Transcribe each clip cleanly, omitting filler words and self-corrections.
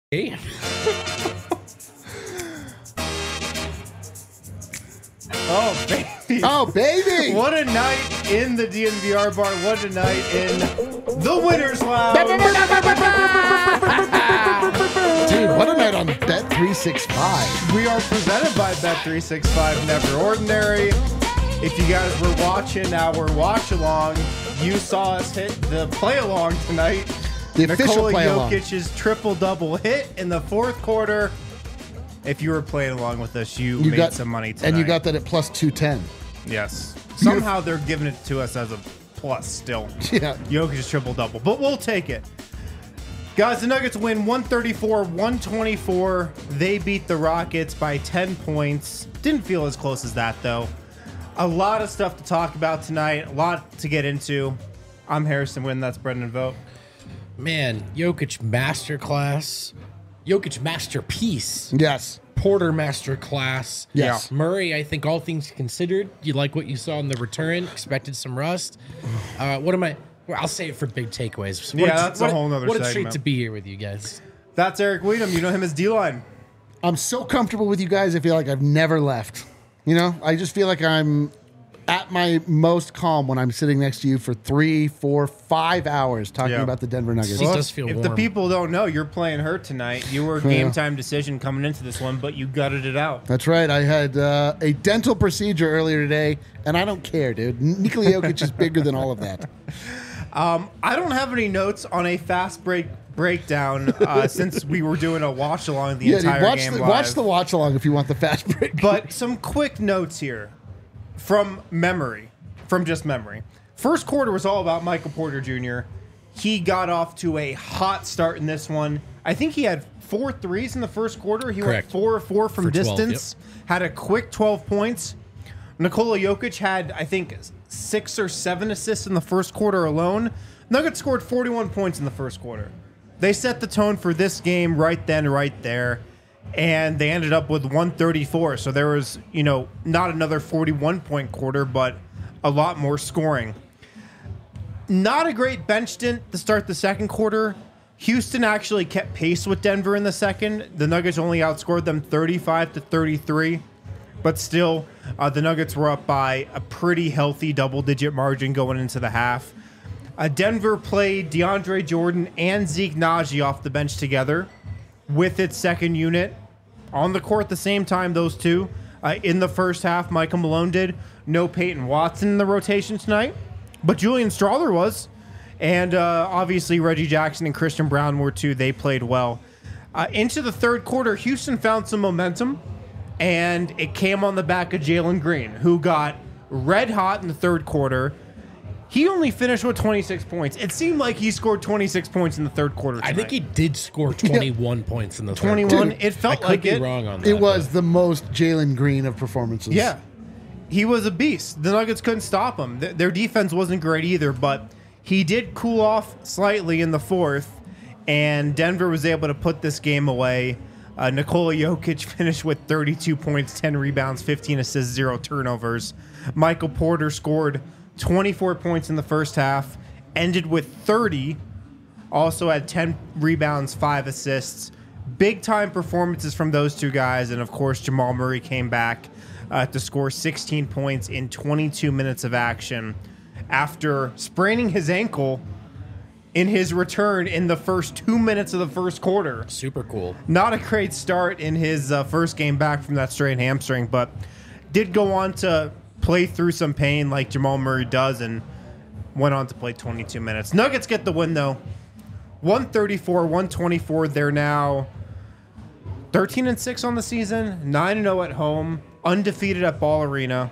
Hey. Oh, baby. Oh, baby. What a night in the DNVR bar. What a night in the Winners Lounge. Dude, what a night on Bet365. We are presented by Bet365 Never Ordinary. If you guys were watching our watch along, you saw us hit the play along tonight. The official Nikola play along. Jokic's triple-double hit in the fourth quarter. If you were playing along with us, you made some money tonight. And you got that at plus 210. Yes. Somehow they're giving it to us as a plus still. Yeah. Jokic's triple-double, but we'll take it. Guys, the Nuggets win 134-124. They beat the Rockets by 10 points. Didn't feel as close as that, though. A lot of stuff to talk about tonight. A lot to get into. I'm Harrison Wynn. That's Brendan Vogt. Man, Jokic masterclass. Jokic masterpiece. Yes. Porter masterclass. Yes. Murray, I think all things considered, you like what you saw in the return. Expected some rust. Well, I'll say it for big takeaways. That's a whole nother What a treat segment. to be here with you guys. That's Eric Weedham. You know him as D-Line. I'm so comfortable with you guys. I feel like I've never left. You know, I just feel like I'm at my most calm when I'm sitting next to you for 3, 4, 5 hours talking about the Denver Nuggets. It does feel If warm. the people don't know, you're playing hurt tonight. You were a game time decision coming into this one, but you gutted it out. That's right. I had a dental procedure earlier today, and I don't care, dude. Nikola Jokic is bigger than all of that. I don't have any notes on a fast breakdown since we were doing a watch along the entire game live. Watch the watch along if you want the fast break. But some quick notes here from just memory. First quarter was all about Michael Porter Jr. He got off to a hot start in this one. I think he had 4 threes in the first quarter. He Correct. went 4 of 4 from For 12, distance. Had a quick 12 points. Nikola Jokic had, I think, 6 or 7 assists in the first quarter alone. Nuggets scored 41 points in the first quarter. They set the tone for this game right then, right there. And they ended up with 134. So there was, not another 41-point quarter, but a lot more scoring. Not a great bench stint to start the second quarter. Houston actually kept pace with Denver in the second. The Nuggets only outscored them 35-33. But still, the Nuggets were up by a pretty healthy double-digit margin going into the half. Denver played DeAndre Jordan and Zeke Naji off the bench together with its second unit on the court at the same time, those two. In the first half, Michael Malone did. No Peyton Watson in the rotation tonight, but Julian Strawther was. And obviously Reggie Jackson and Christian Brown were too. They played well. Into the third quarter, Houston found some momentum, and it came on the back of Jalen Green, who got red hot in the third quarter. He only finished with 26 points. It seemed like he scored 26 points in the third quarter tonight. I think he did score 21 points in the third 21. quarter. It felt I like could it. be wrong on that. It was the most Jalen Green of performances. Yeah. He was a beast. The Nuggets couldn't stop him. Their defense wasn't great either, but he did cool off slightly in the fourth, and Denver was able to put this game away. Nikola Jokic finished with 32 points, 10 rebounds, 15 assists, 0 turnovers. Michael Porter scored 24 points in the first half, ended with 30, also had 10 rebounds, 5 assists. Big-time performances from those two guys, and of course, Jamal Murray came back to score 16 points in 22 minutes of action after spraining his ankle in his return in the first 2 minutes of the first quarter. Super cool. Not a great start in his first game back from that strained hamstring, but did go on to play through some pain like Jamal Murray does and went on to play 22 minutes. Nuggets get the win, though. 134-124. They're now 13-6 on the season, 9-0 at home, undefeated at Ball Arena.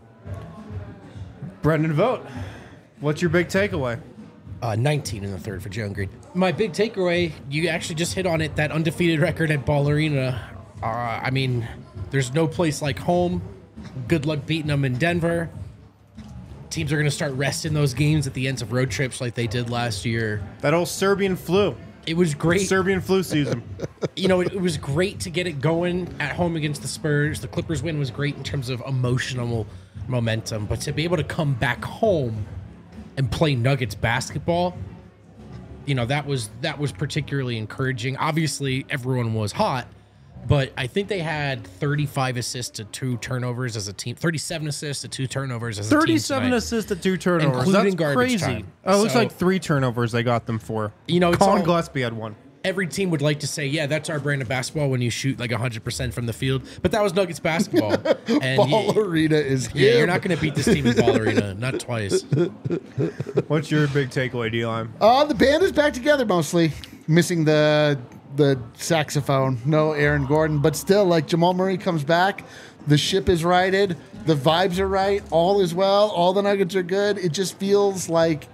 Brendan Vogt, what's your big takeaway? 19 in the third for Jalen Green. My big takeaway, you actually just hit on it, that undefeated record at Ball Arena. I mean, there's no place like home. Good luck beating them in Denver. Teams are going to start resting those games at the ends of road trips like they did last year. That old Serbian flu. It was great. Serbian flu season. It was great to get it going at home against the Spurs. The Clippers win was great in terms of emotional momentum, but to be able to come back home and play Nuggets basketball, that was particularly encouraging. Obviously, everyone was hot, but I think they had 35 assists to 2 turnovers as a team, 37 assists to 2 turnovers as a team. 37 assists to 2 turnovers. Including That's garbage crazy. time. Oh, it looks So- like 3 turnovers they got them for. It's Colin all- Gillespie had 1. Every team would like to say, yeah, that's our brand of basketball when you shoot like 100% from the field. But that was Nuggets basketball. And Ball Arena is yeah, him. you're not going to beat this team in Ball Arena. Not twice. What's your big takeaway, D-Line? The band is back together mostly. Missing the saxophone. No Aaron Gordon. But still, like, Jamal Murray comes back. The ship is righted. The vibes are right. All is well. All the Nuggets are good. It just feels like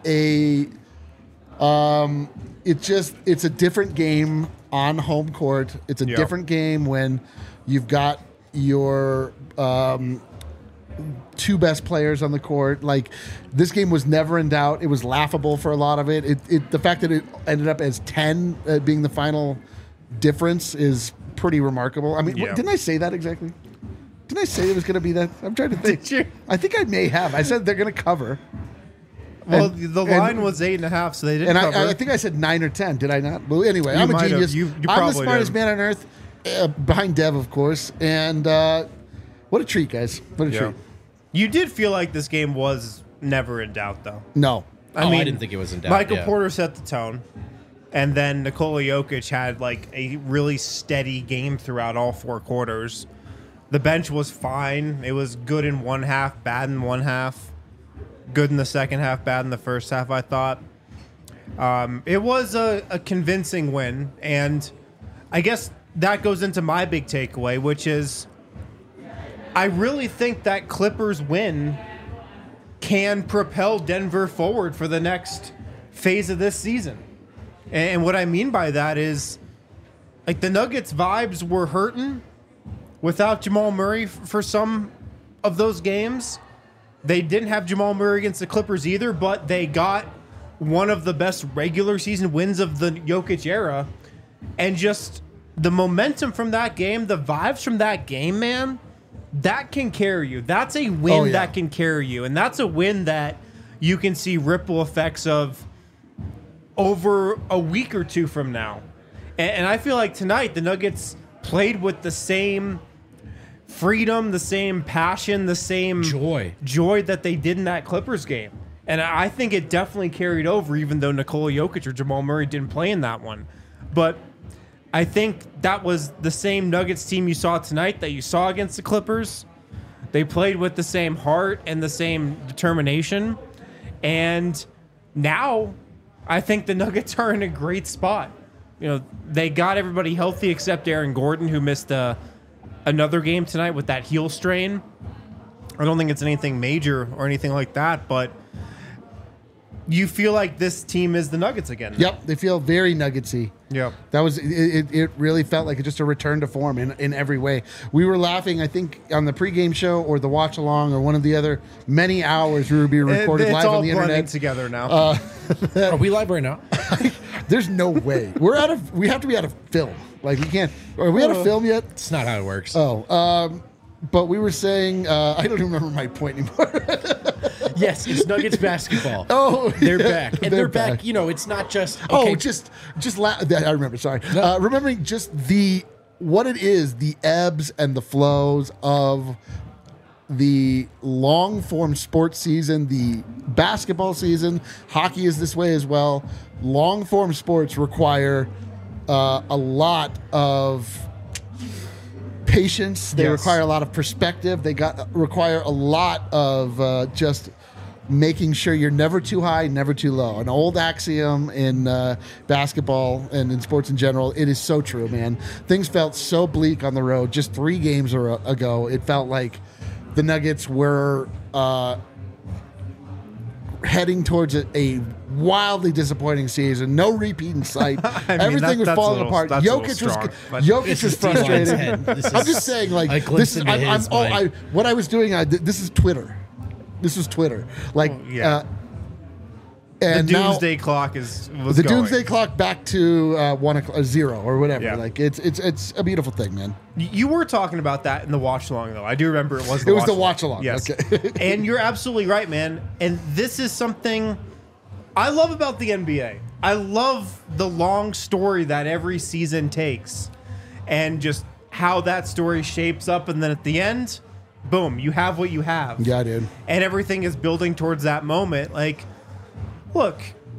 it's a different game on home court. It's a different game when you've got your 2 best players on the court. Like, this game was never in doubt. It was laughable for a lot of it. The fact that it ended up as 10 being the final difference is pretty remarkable. I mean, didn't I say that exactly? Didn't I say it was going to be that? I'm trying to think. Did you? I think I may have. I said they're going to cover. Well, the line was 8.5, so they didn't And cover. I think I said 9 or 10. Did I not? Well, anyway, I'm a might have. genius. You I'm the probably smartest did. man on earth, behind Dev, of course. And what a treat, guys. What a treat. You did feel like this game was never in doubt, though. No. I didn't think it was in doubt. Michael yeah. Porter set the tone, and then Nikola Jokic had like a really steady game throughout all 4 quarters. The bench was fine. It was good in one half, bad in one half. Good in the second half, bad in the first half, I thought. It was a convincing win, and I guess that goes into my big takeaway, which is I really think that Clippers win can propel Denver forward for the next phase of this season. And what I mean by that is, like, the Nuggets vibes were hurting without Jamal Murray for some of those games. They didn't have Jamal Murray against the Clippers either, but they got one of the best regular season wins of the Jokic era. And just the momentum from that game, the vibes from that game, man, that can carry you. That's a win that can carry you. And that's a win that you can see ripple effects of over a week or 2 from now. And I feel like tonight the Nuggets played with the same freedom, the same passion, the same joy that they did in that Clippers game. And I think it definitely carried over, even though Nikola Jokic or Jamal Murray didn't play in that one. But I think that was the same Nuggets team you saw tonight that you saw against the Clippers. They played with the same heart and the same determination. And now I think the Nuggets are in a great spot. You know, they got everybody healthy except Aaron Gordon, who missed another game tonight with that heel strain. I don't think it's anything major or anything like that, but you feel like this team is the Nuggets again. Yep, they feel very Nuggetsy. Yep. That was it. It really felt like just a return to form in every way. We were laughing, I think, on the pregame show or the watch along or one of the other many hours we were being recorded live on the It's all blending internet. together now. Are we live right now? There's no way we have to be out of film. Like, we can't. Are we out of film yet? It's not how it works. But we were saying, I don't even remember my point anymore. Yes, it's Nuggets basketball. Oh, they're yeah, back, and they're back. You know, it's not just I remember. Sorry, remembering just what it is, the ebbs and the flows of the long form sports season, the basketball season. Hockey is this way as well. Long form sports require a lot of patience. They require a lot of perspective. They require a lot of just making sure you're never too high, never too low. An old axiom in basketball and in sports in general. It is so true, man. Things felt so bleak on the road just 3 games ago. It felt like the Nuggets were heading towards a wildly disappointing season. No repeat in sight. Everything was falling apart. Jokic was frustrated. I'm just saying, like, this is what I was doing. This is Twitter. This was Twitter. Like, and the doomsday clock was the going. doomsday clock back to 0 or whatever. Yeah. Like, it's a beautiful thing, man. You were talking about that in the watch along, though. I do remember it was. It was the watch along. Yes, okay. and you're absolutely right, man. And this is something I love about the NBA. I love the long story that every season takes and just how that story shapes up. And then at the end, boom, you have what you have. Yeah, dude. And everything is building towards that moment. Like, look,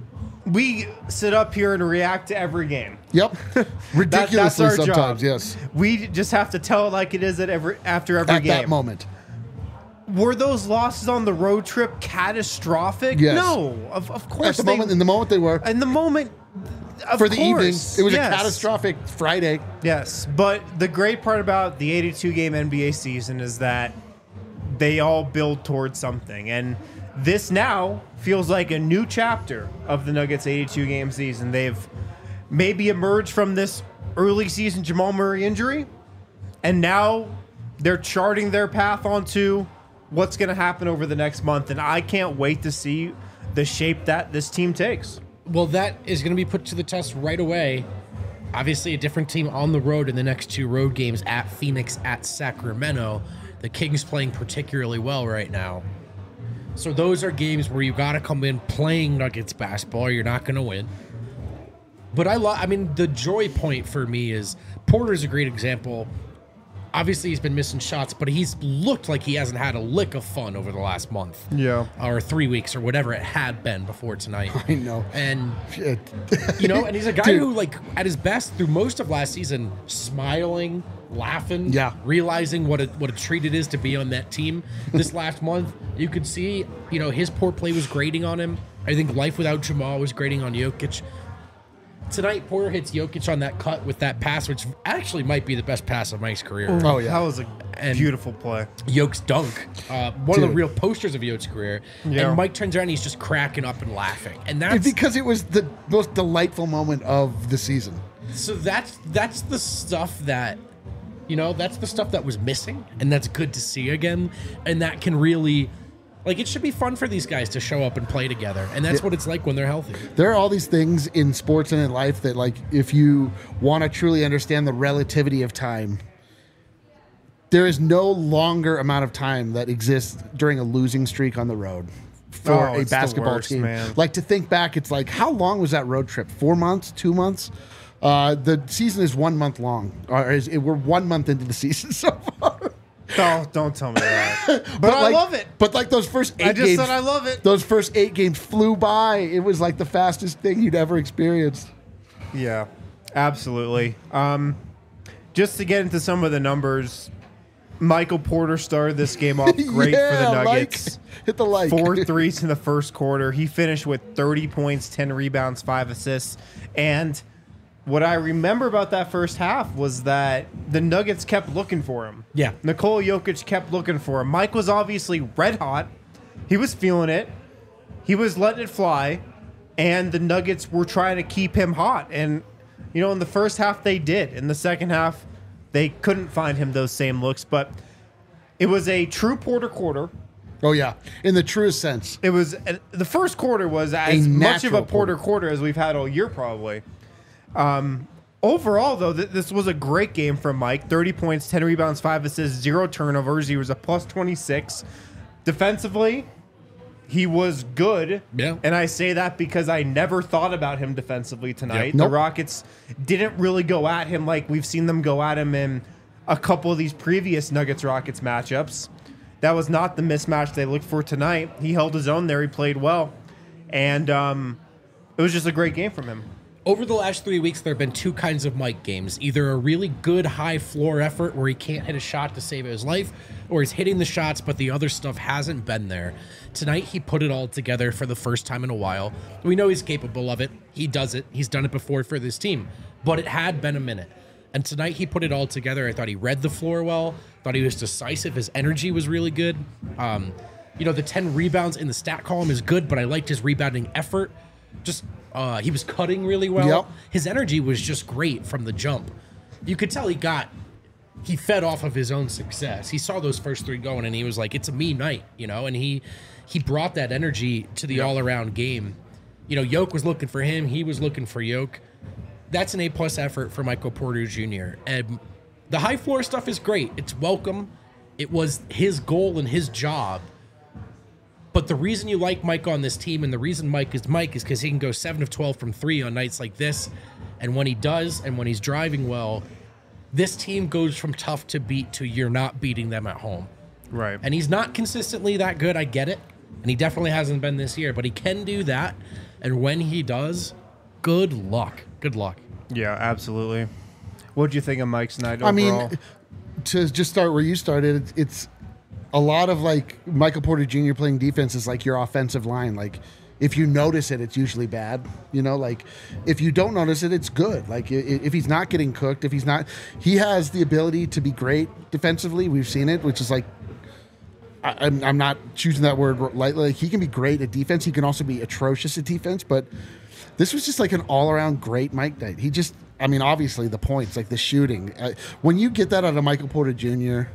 we sit up here and react to every game. Yep. Ridiculously that's our sometimes, job. yes. We just have to tell it like it is after every At game. that moment. Were those losses on the road trip catastrophic? Yes. No, of course. At the moment, in the moment they were. In the moment, of For the evening, course, it was yes. a catastrophic Friday. Yes, but the great part about the 82-game NBA season is that they all build towards something. And this now feels like a new chapter of the Nuggets 82-game season. They've maybe emerged from this early season Jamal Murray injury, and now they're charting their path onto what's going to happen over the next month. And I can't wait to see the shape that this team takes. Well, that is going to be put to the test right away. Obviously, a different team on the road in the next two road games at Phoenix, at Sacramento. The Kings playing particularly well right now. So those are games where you got to come in playing Nuggets basketball or you're not going to win. But I mean, the joy point for me is Porter's a great example. Obviously, he's been missing shots, but he's looked like he hasn't had a lick of fun over the last month. Yeah. Or 3 weeks or whatever it had been before tonight. I know. And, Shit. you know, and he's a guy Dude. who, like, at his best through most of last season, smiling, laughing, Yeah. realizing what a treat it is to be on that team. This last month, you could see, you know, his poor play was grating on him. I think life without Jamal was grating on Jokic. Tonight, Porter hits Jokic on that cut with that pass, which actually might be the best pass of Mike's career. Oh, yeah. That was a beautiful play. Jokic's dunk, one of the Dude. real posters of Jokic's career. Yeah. And Mike turns around and he's just cracking up and laughing. And that's Because it was the most delightful moment of the season. so that's the stuff that, you know, that's the stuff that was missing, and that's good to see again. And that can really, like, it should be fun for these guys to show up and play together. And that's what it's like when they're healthy. There are all these things in sports and in life that, like, if you want to truly understand the relativity of time, there is no longer amount of time that exists during a losing streak on the road for Oh, a it's the basketball worst, team. man. Like, to think back, it's like, how long was that road trip? 4 months? 2 months? The season is 1 month long. We're 1 month into the season so far. Oh, don't tell me that. But I like, love it. But like those first 8 I just games, said I love it. Those first 8 games flew by. It was like the fastest thing you'd ever experienced. Yeah, absolutely. Just to get into some of the numbers, Michael Porter started this game off great for the Nuggets. Hit the like. 4 threes in the first quarter. He finished with 30 points, 10 rebounds, 5 assists. And what I remember about that first half was that the Nuggets kept looking for him. Yeah. Nikola Jokic kept looking for him. Mike was obviously red hot. He was feeling it. He was letting it fly. And the Nuggets were trying to keep him hot. And, you know, in the first half, they did. In the second half, they couldn't find him those same looks. But it was a true Porter quarter. Oh yeah, in the truest sense. It was the first quarter was as much of a natural Porter quarter as we've had all year, probably. Overall, though, this was a great game from Mike. 30 points, 10 rebounds, 5 assists, 0 turnovers. He was a plus 26. Defensively, he was good. Yeah. And I say that because I never thought about him defensively tonight. Yep. Nope. The Rockets didn't really go at him like we've seen them go at him in a couple of these previous Nuggets-Rockets matchups. That was not the mismatch they looked for tonight. He held his own there. He played well. And it was just a great game from him. Over the last 3 weeks, there have been two kinds of Mike games. Either a really good high floor effort where he can't hit a shot to save his life, or he's hitting the shots, but the other stuff hasn't been there. Tonight, he put it all together for the first time in a while. We know he's capable of it. He does it. He's done it before for this team. But it had been a minute. And tonight, he put it all together. I thought he read the floor well. Thought he was decisive. His energy was really good. You know, the 10 rebounds in the stat column is good, but I liked his rebounding effort. Just he was cutting really well. Yep. His energy was just great from the jump. You could tell he fed off of his own success. He saw those first 3 going, and he was like, "It's a me night," you know. And he brought that energy to the all around game. You know, Yoke was looking for him. He was looking for Yoke. That's an A+ effort for Michael Porter Jr. And the high floor stuff is great. It's welcome. It was his goal and his job. But the reason you like Mike on this team and the reason Mike is because he can go 7 of 12 from 3 on nights like this. And when he does, and when he's driving well, this team goes from tough to beat to you're not beating them at home. Right. And he's not consistently that good, I get it. And he definitely hasn't been this year, but he can do that. And when he does, good luck. Good luck. Yeah, absolutely. What do you think of Mike's night overall? I mean, to just start where you started, it's a lot of like Michael Porter Jr. playing defense is like your offensive line. Like, if you notice it, it's usually bad. You know, like if you don't notice it, it's good. Like if he's not getting cooked, if he's not, he has the ability to be great defensively. We've seen it, which is like, I'm not choosing that word lightly. Like, he can be great at defense. He can also be atrocious at defense. But this was just like an all-around great Mike night. He just, I mean, obviously the points, like the shooting. When you get that out of Michael Porter Jr.,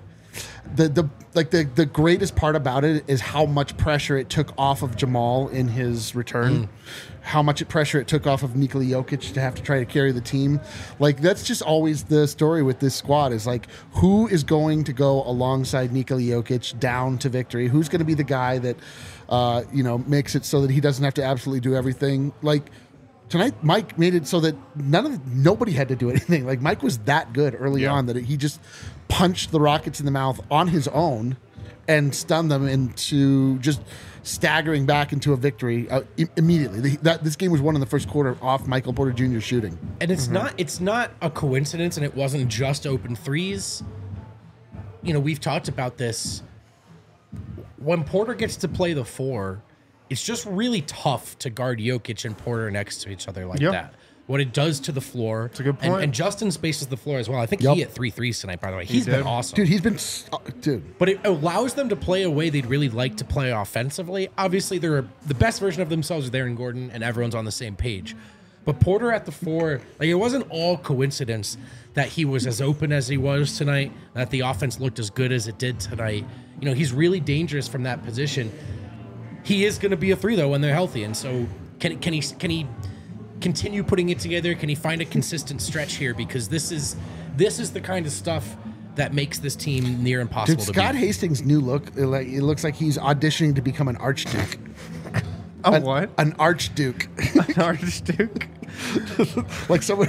the greatest part about it is how much pressure it took off of Jamal in his return, how much pressure it took off of Nikola Jokic to have to try to carry the team. Like, that's just always the story with this squad is like, who is going to go alongside Nikola Jokic down to victory? Who's going to be the guy that makes it so that he doesn't have to absolutely do everything? Like, tonight, Mike made it so that nobody had to do anything. Like, Mike was that good early on that he just punched the Rockets in the mouth on his own and stunned them into just staggering back into a victory immediately. This game was won in the first quarter off Michael Porter Jr. shooting. And it's not a coincidence, and it wasn't just open threes. You know, we've talked about this. When Porter gets to play the 4, it's just really tough to guard Jokic and Porter next to each other like that. What it does to the floor. It's a good point. And Justin spaces the floor as well. I think he hit 3 threes tonight, by the way. He's been awesome. Dude, he's been... dude. But it allows them to play a way they'd really like to play offensively. Obviously, the best version of themselves is Aaron Gordon, and everyone's on the same page. But Porter at the 4, like, it wasn't all coincidence that he was as open as he was tonight, that the offense looked as good as it did tonight. You know, he's really dangerous from that position. He is going to be a 3, though, when they're healthy. And so can he continue putting it together? Can he find a consistent stretch here? Because this is the kind of stuff that makes this team near impossible to beat. Scott Hastings' new look, it looks like he's auditioning to become an archduke. What? An archduke. An archduke? Like someone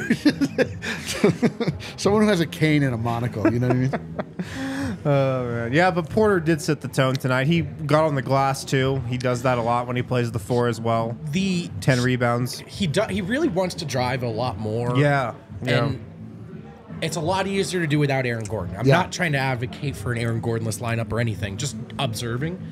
who has a cane and a monocle, you know what I mean? Oh, man. Yeah, but Porter did set the tone tonight. He got on the glass, too. He does that a lot when he plays the 4 as well. 10 rebounds. He really wants to drive a lot more. Yeah. And it's a lot easier to do without Aaron Gordon. I'm not trying to advocate for an Aaron Gordon-less lineup or anything, just observing.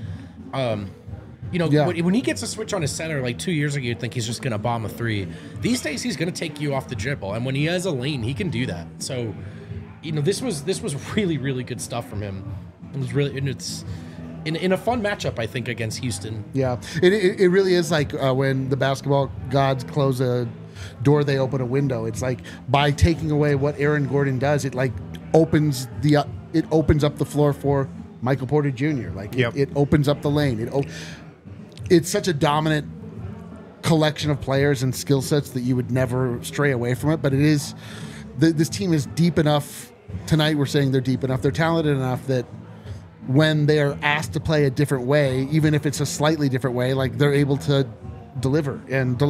When he gets a switch on his center, like 2 years ago, you'd think he's just going to bomb a 3. These days, he's going to take you off the dribble. And when he has a lane, he can do that. So, you know, this was really, really good stuff from him. It was really, and it's in a fun matchup, I think, against Houston. Yeah, it really is like when the basketball gods close a door, they open a window. It's like by taking away what Aaron Gordon does, it like opens up the floor for Michael Porter Jr. Like it opens up the lane. It's such a dominant collection of players and skill sets that you would never stray away from it. But it is, this team is deep enough. Tonight we're saying they're deep enough. They're talented enough that when they are asked to play a different way, even if it's a slightly different way, like they're able to deliver,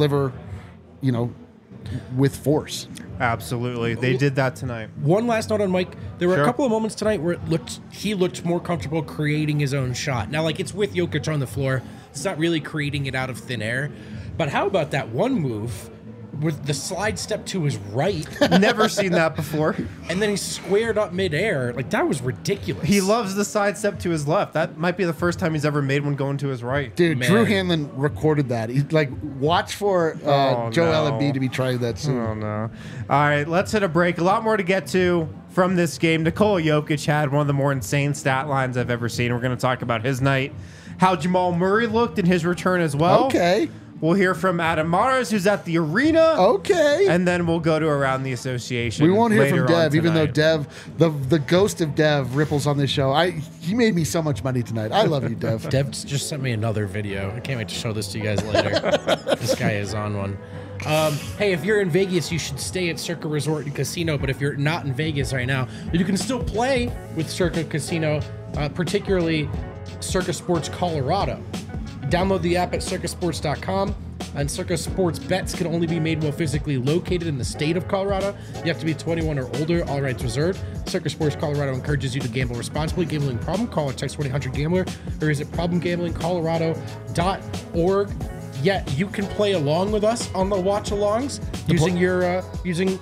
you know, with force. Absolutely. They did that tonight. One last note on Mike. There were a couple of moments tonight where he looked more comfortable creating his own shot. Now, like, it's with Jokic on the floor. It's not really creating it out of thin air. But how about that one move with the slide step to his right? Never seen that before. And then he squared up midair. Like, that was ridiculous. He loves the side step to his left. That might be the first time he's ever made one going to his right. Dude, man. Drew Hanlon recorded that. He's like, watch for Joel Embiid to be trying that soon. Oh, no. All right, let's hit a break. A lot more to get to from this game. Nikola Jokic had one of the more insane stat lines I've ever seen. We're going to talk about his night, how Jamal Murray looked in his return as well. Okay. We'll hear from Adam Mares, who's at the arena. Okay. And then we'll go to Around the Association. We won't hear from Dev, even though Dev, the ghost of Dev ripples on this show. He made me so much money tonight. I love you, Dev. Dev just sent me another video. I can't wait to show this to you guys later. This guy is on one. Hey, if you're in Vegas, you should stay at Circa Resort and Casino. But if you're not in Vegas right now, you can still play with Circa Casino, particularly Circa Sports Colorado. Download the app at circusports.com. And Circus Sports bets can only be made while physically located in the state of Colorado. You have to be 21 or older, all rights reserved. Circus Sports Colorado encourages you to gamble responsibly. Gambling problem? Call or text 1-800-GAMBLER or visit problemgamblingcolorado.org. Yeah, you can play along with us on the watch-alongs using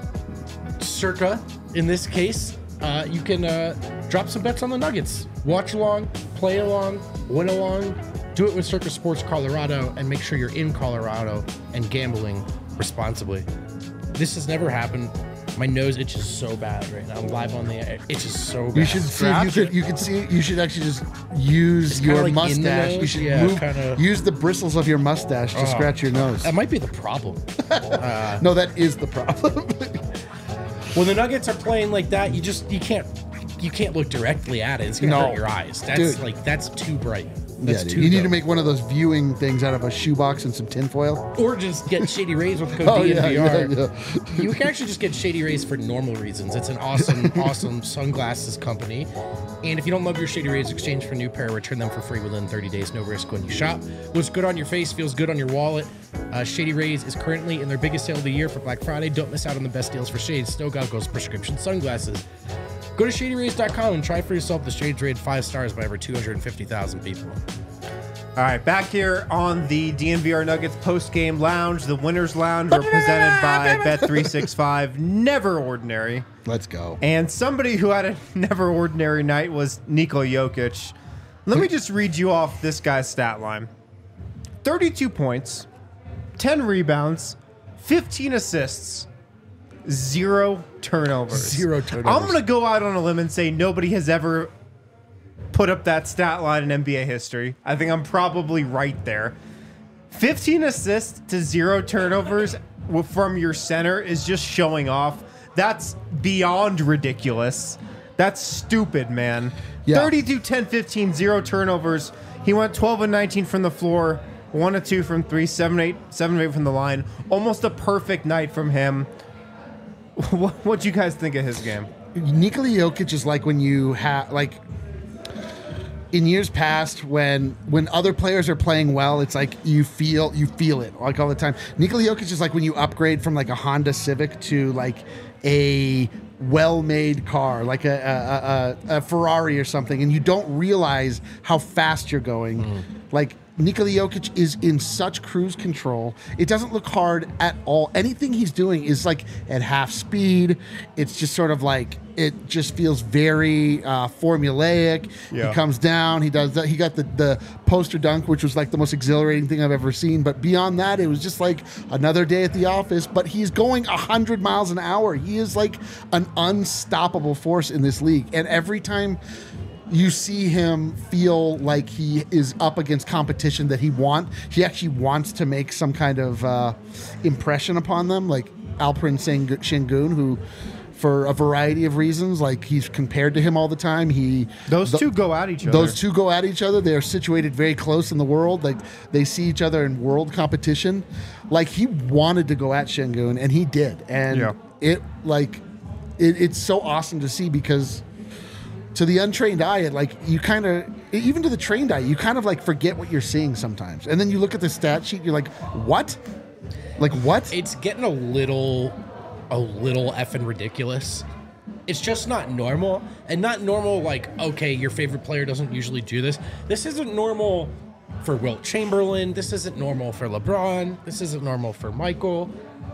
Circa. In this case, you can drop some bets on the Nuggets. Watch along, play along, win along. Do it with Circus Sports Colorado and make sure you're in Colorado and gambling responsibly. This has never happened. My nose itches so bad right now. I'm live on the air. It's just so bad. You should see if you could see. You should actually just use your like mustache. You should use the bristles of your mustache to scratch your nose. That might be the problem. No, that is the problem. When the Nuggets are playing like that, you can't look directly at it. It's gonna hurt your eyes. That's too bright. That's too you need dope. to make one of those viewing things out of a shoebox and some tinfoil. Or just get Shady Rays with code DNVR. You can actually just get Shady Rays for normal reasons. It's an awesome sunglasses company. And if you don't love your Shady Rays, exchange for a new pair, return them for free within 30 days. No risk when you shop. Looks good on your face, feels good on your wallet. Shady Rays is currently in their biggest sale of the year for Black Friday. Don't miss out on the best deals for shades, snow goggles, prescription sunglasses. Go to ShadyRays.com and try for yourself. The Shades rated 5 stars by over 250,000 people. All right, back here on the DNVR Nuggets post-game lounge, the Winners Lounge, represented by Bet365. Never ordinary. Let's go. And somebody who had a never ordinary night was Nikola Jokic. Let me just read you off this guy's stat line. 32 points, 10 rebounds, 15 assists, 0 turnovers. 0 turnovers. I'm going to go out on a limb and say nobody has ever put up that stat line in NBA history. I think I'm probably right there. 15 assists to 0 turnovers from your center is just showing off. That's beyond ridiculous. That's stupid, man. Yeah. 32, 10, 15, 0 turnovers. He went 12 and 19 from the floor, 1 of 2 from 3, 7 of 8 from the line. Almost a perfect night from him. What do you guys think of his game? Nikola Jokic is like when you have in years past when other players are playing well, it's like you feel it like all the time. Nikola Jokic is like when you upgrade from like a Honda Civic to like a well-made car, like a Ferrari or something, and you don't realize how fast you're going. Like Nikola Jokic is in such cruise control. It doesn't look hard at all. Anything he's doing is like at half speed. It's just sort of like, it just feels very formulaic. Yeah. He comes down, he does that. He got the poster dunk, which was like the most exhilarating thing I've ever seen. But beyond that, it was just like another day at the office, but he's going 100 miles an hour. He is like an unstoppable force in this league. And every time you see him feel like he is up against competition that he actually wants to make some kind of impression upon them, like Alperen Sengun, who, for a variety of reasons, like he's compared to him all the time. Those two go at each other. Those two go at each other. They're situated very close in the world. Like they see each other in world competition. Like he wanted to go at Sengun, and he did. And it's so awesome to see, because to the untrained eye, even to the trained eye, you kind of like forget what you're seeing sometimes. And then you look at the stat sheet, you're like, what? Like what? It's getting a little effing ridiculous. It's just not normal. And not normal like, okay, your favorite player doesn't usually do this. This isn't normal for Wilt Chamberlain. This isn't normal for LeBron. This isn't normal for Michael.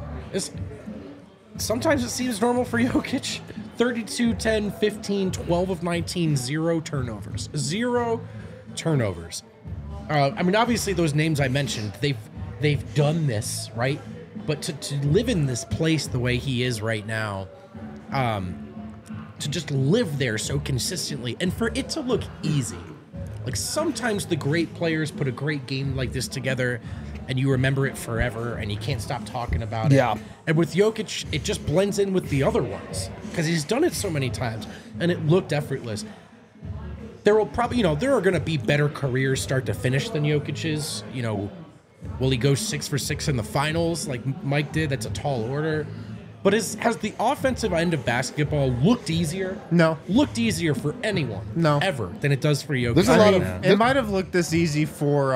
Sometimes it seems normal for Jokic. 32, 10, 15, 12 of 19, 0 turnovers. 0 turnovers. I mean, obviously those names I mentioned, they've done this, right? But to live in this place the way he is right now, to just live there so consistently, and for it to look easy. Like sometimes the great players put a great game like this together and you remember it forever and you can't stop talking about it. Yeah. And with Jokic, it just blends in with the other ones because he's done it so many times and it looked effortless. There will probably, there are going to be better careers start to finish than Jokic's. Will he go 6 for 6 in the finals like Mike did? That's a tall order. But has the offensive end of basketball looked easier? No. Looked easier for anyone. No. Ever than it does for Jokic. There's a lot of- It might have looked this easy for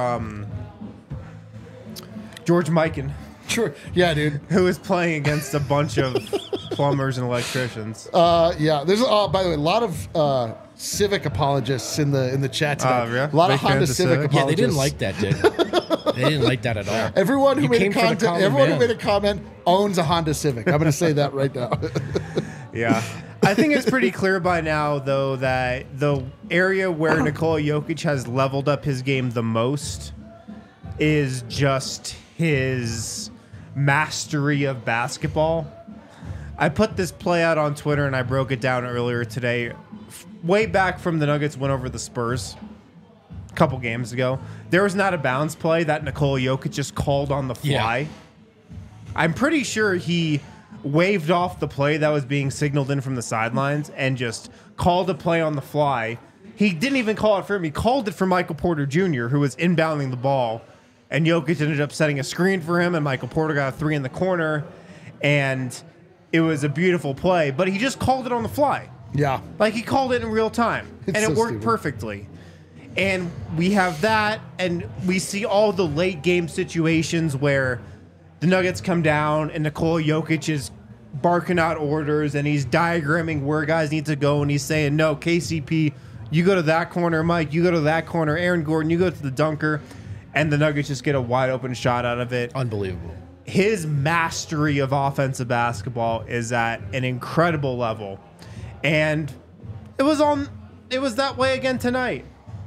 George Mikan, Sure. Yeah, dude. who is playing against a bunch of plumbers and electricians. Yeah. There's by the way a lot of Civic apologists in the chat tonight. Yeah? A lot Big of Honda fans of Civic Civic? apologists. Yeah, they didn't like that, did they? They didn't like that at all. Everyone who You made a came for the comment, common everyone who man. made a comment owns a Honda Civic. I'm going to say that right now. Yeah. I think it's pretty clear by now, though, that the area where Nikola Jokic has leveled up his game the most is just his mastery of basketball. I put this play out on Twitter and I broke it down earlier today. Way back from the Nuggets went over the Spurs a couple games ago. There was not a bounce play that Nikola Jokic just called on the fly. Yeah. I'm pretty sure he waved off the play that was being signaled in from the sidelines and just called a play on the fly. He didn't even call it for him. He called it for Michael Porter Jr., who was inbounding the ball. And Jokic ended up setting a screen for him, and Michael Porter got a three in the corner. And it was a beautiful play, but he just called it on the fly. Yeah. Like, he called it in real time, It's and so it worked stupid. perfectly. And we have that, and we see all the late game situations where the Nuggets come down and Nikola Jokic is barking out orders and he's diagramming where guys need to go, and he's saying, no, KCP, you go to that corner, Mike, you go to that corner, Aaron Gordon, you go to the dunker, and the Nuggets just get a wide open shot out of it. Unbelievable. His mastery of offensive basketball is at an incredible level. And it was that way again tonight.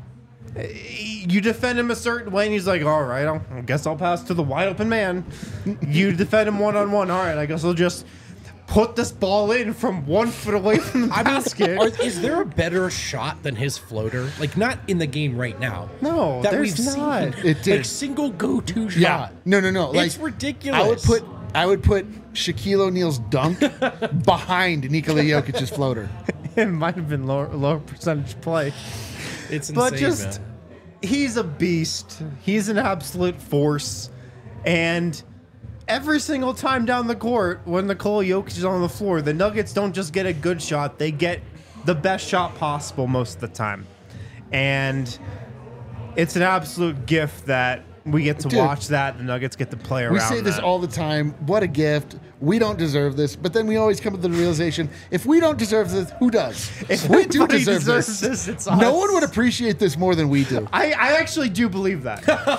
You defend him a certain way, and he's like, all right, I guess I'll pass to the wide open man. You defend him one-on-one. All right, I guess I'll just put this ball in from 1 foot away from the basket. Is there a better shot than his floater? Like, not in the game right now. No, that there's we've not. seen. It did. Like, single go-to shot. Yeah. No. Like, It's ridiculous. I would put Shaquille O'Neal's dunk behind Nikola Jokic's floater. It might have been lower percentage play. It's insane, But just, man. he's a beast. He's an absolute force. And every single time down the court, when Nikola Jokic is on the floor, the Nuggets don't just get a good shot. They get the best shot possible most of the time. And it's an absolute gift that we get to Dude, watch that. The Nuggets get to play around We say this that. all the time. What a gift. We don't deserve this. But then we always come to the realization, if we don't deserve this, who does? If we do anybody deserve deserves this. it's No us. one would appreciate this more than we do. I actually do believe that.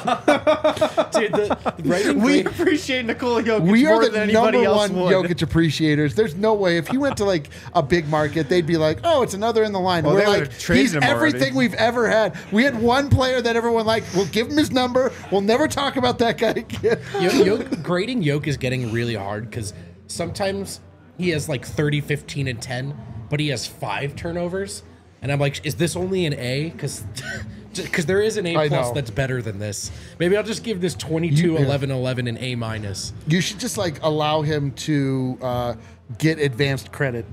Dude, the writing We great- appreciate Nikola Jokic We more are than the anybody number else one would. Jokic appreciators. There's no way. If he went to like a big market, they'd be like, oh, it's another in the line. Well, We're they like, would've traded he's him already. everything we've ever had. We had one player that everyone liked. We'll give him his number. We'll never talk about that guy again. Grading Yoke is getting really hard because sometimes he has like 30, 15, and 10, but he has 5 turnovers. And I'm like, is this only an A? Because there is an A I plus know. that's better than this. Maybe I'll just give this 22, 11, 11 an A minus. You should just like allow him to get advanced credit.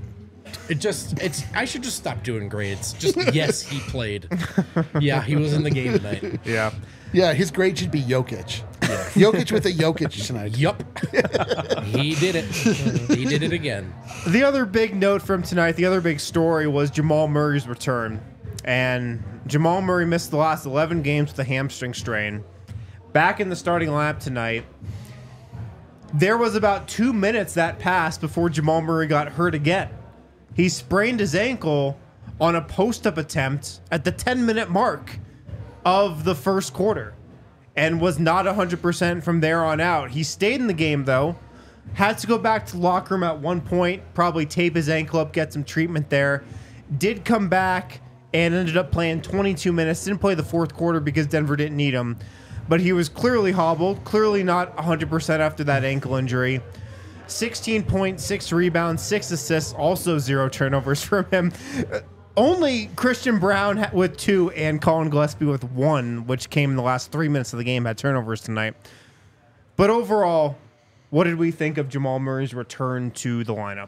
I should just stop doing grades. Just, yes, he played. Yeah, he was in the game tonight. Yeah. Yeah, his grade should be Jokic. Jokic with a Jokic tonight. Yup. He did it. He did it again. The other big note from tonight, the other big story was Jamal Murray's return. And Jamal Murray missed the last 11 games with a hamstring strain. Back in the starting lineup tonight, there was about 2 minutes that passed before Jamal Murray got hurt again. He sprained his ankle on a post-up attempt at the 10-minute mark of the first quarter and was not 100% from there on out. He stayed in the game, though. Had to go back to the locker room at one point, probably tape his ankle up, get some treatment there. Did come back and ended up playing 22 minutes. Didn't play the fourth quarter because Denver didn't need him. But he was clearly hobbled, clearly not 100% after that ankle injury. 16 points, 6 rebounds, 6 assists, also 0 turnovers from him. Only Christian Brown with 2 and Colin Gillespie with 1, which came in the last 3 minutes of the game, had turnovers tonight. But overall, what did we think of Jamal Murray's return to the lineup?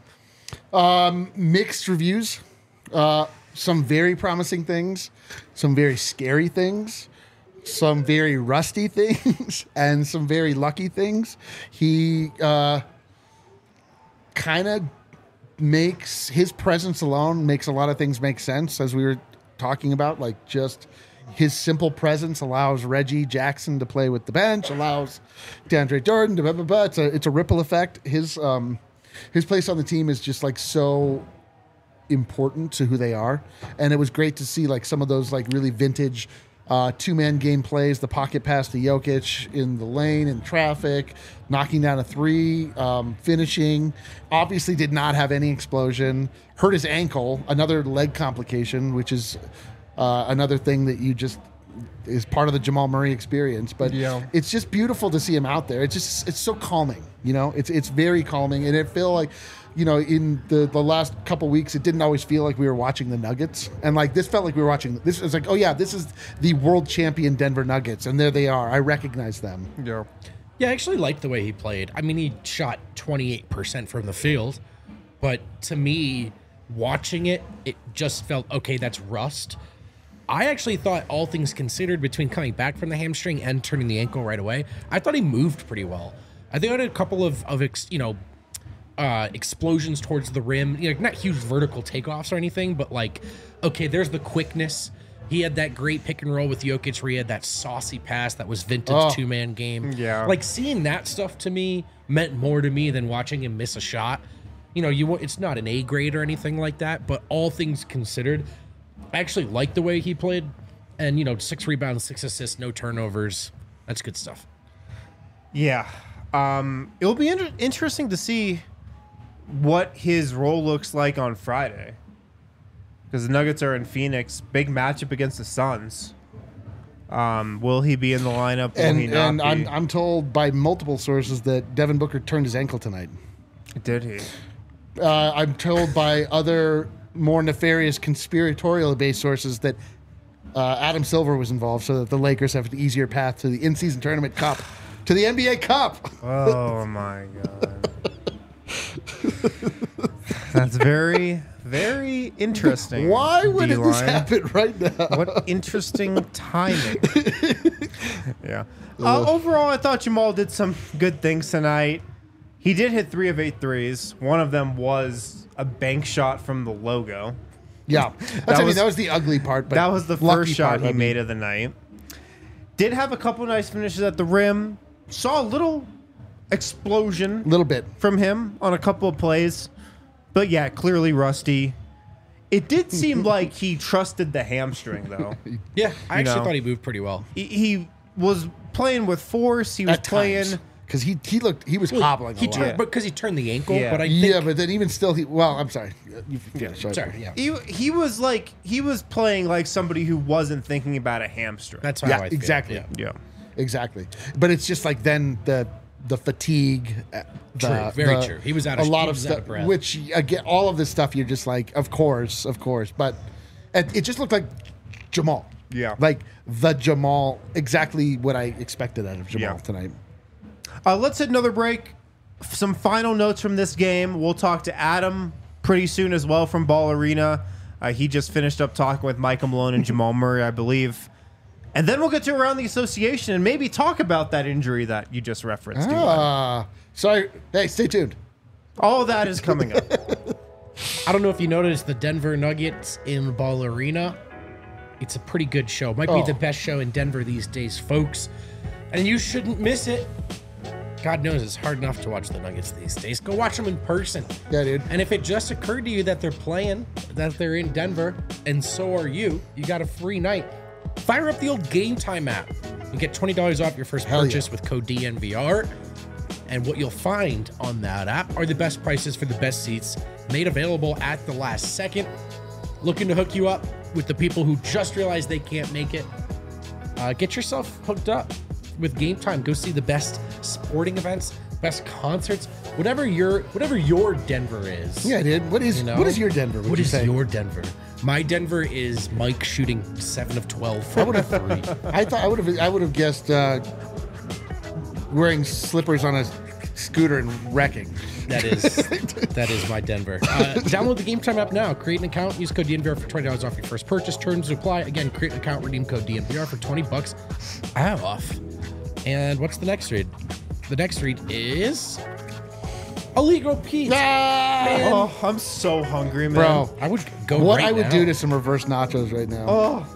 Mixed reviews. Some very promising things, some very scary things, some very rusty things, and some very lucky things. He kind of makes his presence alone makes a lot of things make sense, as we were talking about. Like, just his simple presence allows Reggie Jackson to play with the bench, allows DeAndre Jordan to blah, blah, blah. It's a ripple effect. His place on the team is just like so important to who they are, and it was great to see like some of those like really vintage two-man game plays, the pocket pass to Jokic in the lane in traffic, knocking down a three, finishing. Obviously did not have any explosion, hurt his ankle, another leg complication, which is another thing that you just is part of the Jamal Murray experience. But it's just beautiful to see him out there. It's so calming, you know. It's very calming, and it feel like, you know, in the last couple weeks, it didn't always feel like we were watching the Nuggets. And like this felt like we were watching, this was like, oh yeah, this is the world champion Denver Nuggets. And there they are. I recognize them. Yeah. Yeah, I actually liked the way he played. I mean, he shot 28% from the field, but to me, watching it, it just felt, okay, that's rust. I actually thought, all things considered, between coming back from the hamstring and turning the ankle right away, I thought he moved pretty well. I think I had a couple of explosions towards the rim, you know, not huge vertical takeoffs or anything, but like, okay, there's the quickness. He had that great pick and roll with Jokic where he had that saucy pass that was vintage two-man game. Yeah. Like, seeing that stuff to me meant more to me than watching him miss a shot. You know, it's not an A grade or anything like that, but all things considered, I actually liked the way he played. And, you know, 6 rebounds, 6 assists, no turnovers. That's good stuff. Yeah. It'll be interesting to see what his role looks like on Friday, because the Nuggets are in Phoenix, big matchup against the Suns. Will he be in the lineup? Will he not be? I'm told by multiple sources that Devin Booker turned his ankle tonight. Did he? I'm told by other more nefarious conspiratorial based sources that Adam Silver was involved, so that the Lakers have an easier path to the in-season tournament cup, to the NBA Cup. Oh my God. That's very, very interesting. Why would this happen right now? What interesting timing. Yeah. Overall, I thought Jamal did some good things tonight. He did hit 3 of 8 threes. One of them was a bank shot from the logo. Yeah. That was the ugly part. But that was the first shot he made of the night. Did have a couple nice finishes at the rim. Saw a little explosion, little bit from him on a couple of plays, but yeah, clearly rusty. It did seem like he trusted the hamstring, though. Yeah, I actually thought he moved pretty well. He was playing with force. He was playing because he was hobbling. He turned, but because he turned the ankle. Yeah. But I think, but then even still, I'm sorry. He was playing like somebody who wasn't thinking about a hamstring. That's how I feel. Exactly. Yeah, exactly. But it's just like then the fatigue. Very true. He was out of a lot of stuff. Which again, all of this stuff, you're just like, of course. But it just looked like Jamal. Yeah, like the Jamal. Exactly what I expected out of Jamal tonight. Let's hit another break. Some final notes from this game. We'll talk to Adam pretty soon as well from Ball Arena. He just finished up talking with Michael Malone and Jamal Murray, I believe. And then we'll get to Around the Association and maybe talk about that injury that you just referenced. Sorry. Hey, stay tuned. All of that is coming up. I don't know if you noticed the Denver Nuggets in Ball Arena. It's a pretty good show. Might be the best show in Denver these days, folks. And you shouldn't miss it. God knows it's hard enough to watch the Nuggets these days. Go watch them in person. Yeah, dude. And if it just occurred to you that they're playing, that they're in Denver, and so are you got a free night. Fire up the old Game Time app and get $20 off your first purchase with code DNVR. And what you'll find on that app are the best prices for the best seats made available at the last second. Looking to hook you up with the people who just realized they can't make it. Get yourself hooked up with Game Time. Go see the best sporting events, best concerts, whatever your Denver is. Yeah, dude. What is your Denver? What is your Denver? My Denver is Mike shooting 7 of 12 from 3. I would have guessed wearing slippers on a scooter and wrecking. That is my Denver. Download the Game Time app now. Create an account. Use code DNVR for $20 off your first purchase. Terms apply. Again, create an account. Redeem code DNVR for $20 off. And what's the next read? The next read is Illegal Pete. Man. Oh, I'm so hungry, man. Bro, I would go what right I would now. do to some reverse nachos right now. Oh,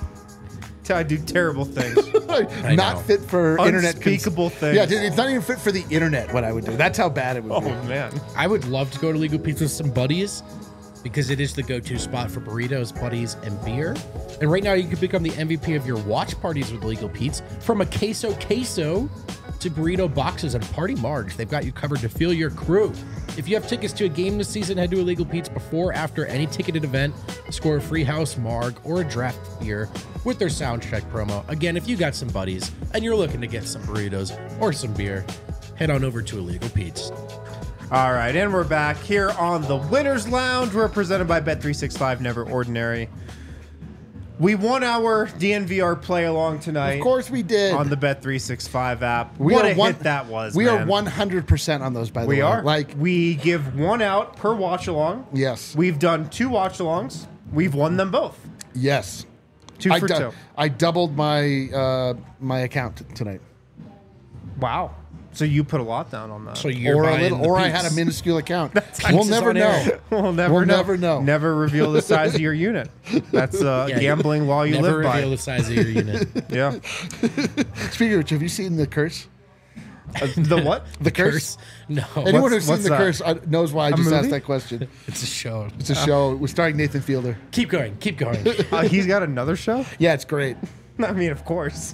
I do terrible things. I Not know. fit for internet. Unspeakable things. Yeah, dude, it's not even fit for the internet. What I would do. That's how bad it would Oh be. man. I would love to go to Legal Pizza with some buddies because it is the go-to spot for burritos, buddies, and beer. And right now, you can become the MVP of your watch parties with Legal Pizza. From a queso to burrito boxes and party margs, they've got you covered to feel your crew. If you have tickets to a game this season, head to Illegal Pete's before or after any ticketed event. Score a free house marg or a draft beer with their sound check promo. Again, if you got some buddies and you're looking to get some burritos or some beer, head on over to Illegal Pete's. All right, and we're back here on the Winners Lounge. We're presented by Bet365 Never Ordinary. We won our DNVR play along tonight. Of course we did. On the Bet365 app. We What are a one- hit that was, We man. are 100% on those, by the way. We are. Like, we give one out per watch along. yes. We've done 2 watch alongs. We've won them both. Yes. 2 for 2. I doubled my my account tonight. Wow. So you put a lot down on that. So you're Or a buying little, the or I Pete's. had a minuscule account. Pete's We'll is never on know. air. We'll never We'll know. never know. Never reveal the size of your unit. That's Yeah, gambling law you Never live by. reveal the size of your unit. Yeah. Speaking of which, have you seen The Curse? The what? The Curse? No, Anyone who's seen what's The that? Curse knows why I just movie? asked that question. it's a show. It's a show. It was starring Nathan Fielder. Keep going. Keep going. He's got another show? Yeah, it's great. I mean, of course.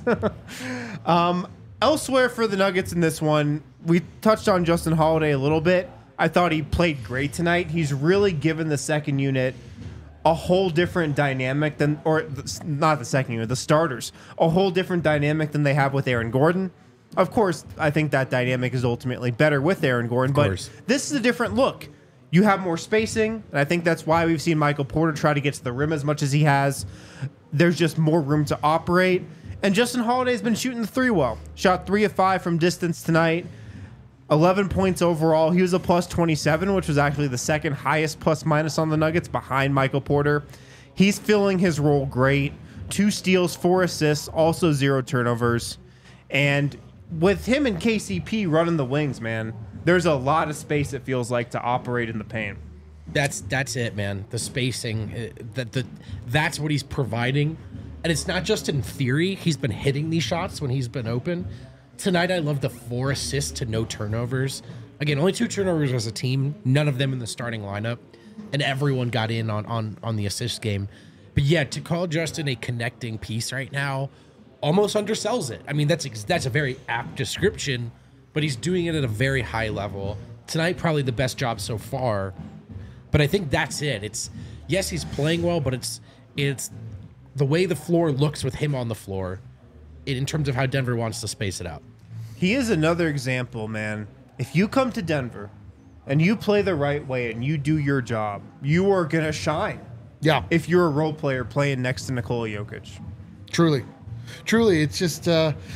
Elsewhere for the Nuggets in this one, we touched on Justin Holiday a little bit. I thought he played great tonight. He's really given the second unit a whole different dynamic than, not the second unit, the starters, a whole different dynamic than they have with Aaron Gordon. Of course, I think that dynamic is ultimately better with Aaron Gordon, course. but this is a different look. You have more spacing, and I think that's why we've seen Michael Porter try to get to the rim as much as he has. There's just more room to operate. And Justin Holiday's been shooting the 3 well. Shot 3 of 5 from distance tonight. 11 points overall. He was a plus 27, which was actually the second highest plus minus on the Nuggets behind Michael Porter. He's filling his role great. 2 steals, 4 assists, also 0 turnovers. And with him and KCP running the wings, man, there's a lot of space, it feels like, to operate in the paint. That's it, man. The spacing, that's what he's providing, and it's not just in theory. He's been hitting these shots when he's been open. Tonight, I love the 4 assists to no turnovers. Again, only 2 turnovers as a team. None of them in the starting lineup, and everyone got in on the assist game. But yeah, to call Justin a connecting piece right now almost undersells it. I mean, that's a very apt description, but he's doing it at a very high level. Tonight, probably the best job so far. But I think that's it. It's, yes, he's playing well, but it's the way the floor looks with him on the floor in terms of how Denver wants to space it out. He is another example, man. If you come to Denver and you play the right way and you do your job, you are going to shine. Yeah, If you're a role player playing next to Nikola Jokic. truly. It's just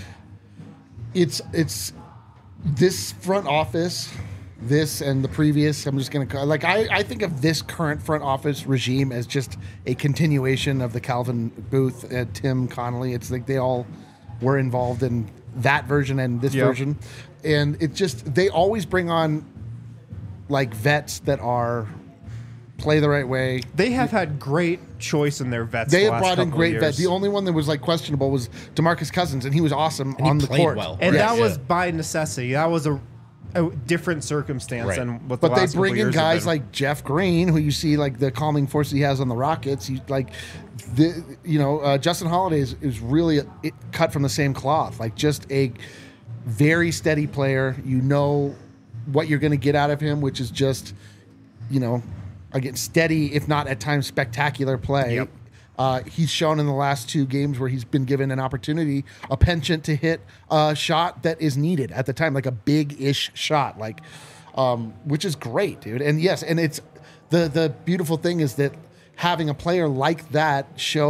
it's this front office, this and the previous. I'm just gonna like I think of this current front office regime as just a continuation of the Calvin Booth, Tim Connolly. It's like they all were involved in that version and this Yep. version, and it just they always bring on like vets that are play the right way. They have had great choice in their vets. They the have last brought in couple great of vets. years. The only one that was like questionable was DeMarcus Cousins, and he was awesome And he on the played court. well. And Right. that was Yeah. by necessity. That was a different circumstance Right. than what the But they last couple bring in years have guys been. like Jeff Green, who you see like the calming force he has on the Rockets. He like, Justin Holiday is really cut from the same cloth. Like just a very steady player. You know what you're going to get out of him, which is just, again, steady, if not at times spectacular play. Yep. He's shown in the last 2 games where he's been given an opportunity, a penchant to hit a shot that is needed at the time, like a big-ish shot, which is great, dude. And yes, and it's the beautiful thing is that having a player like that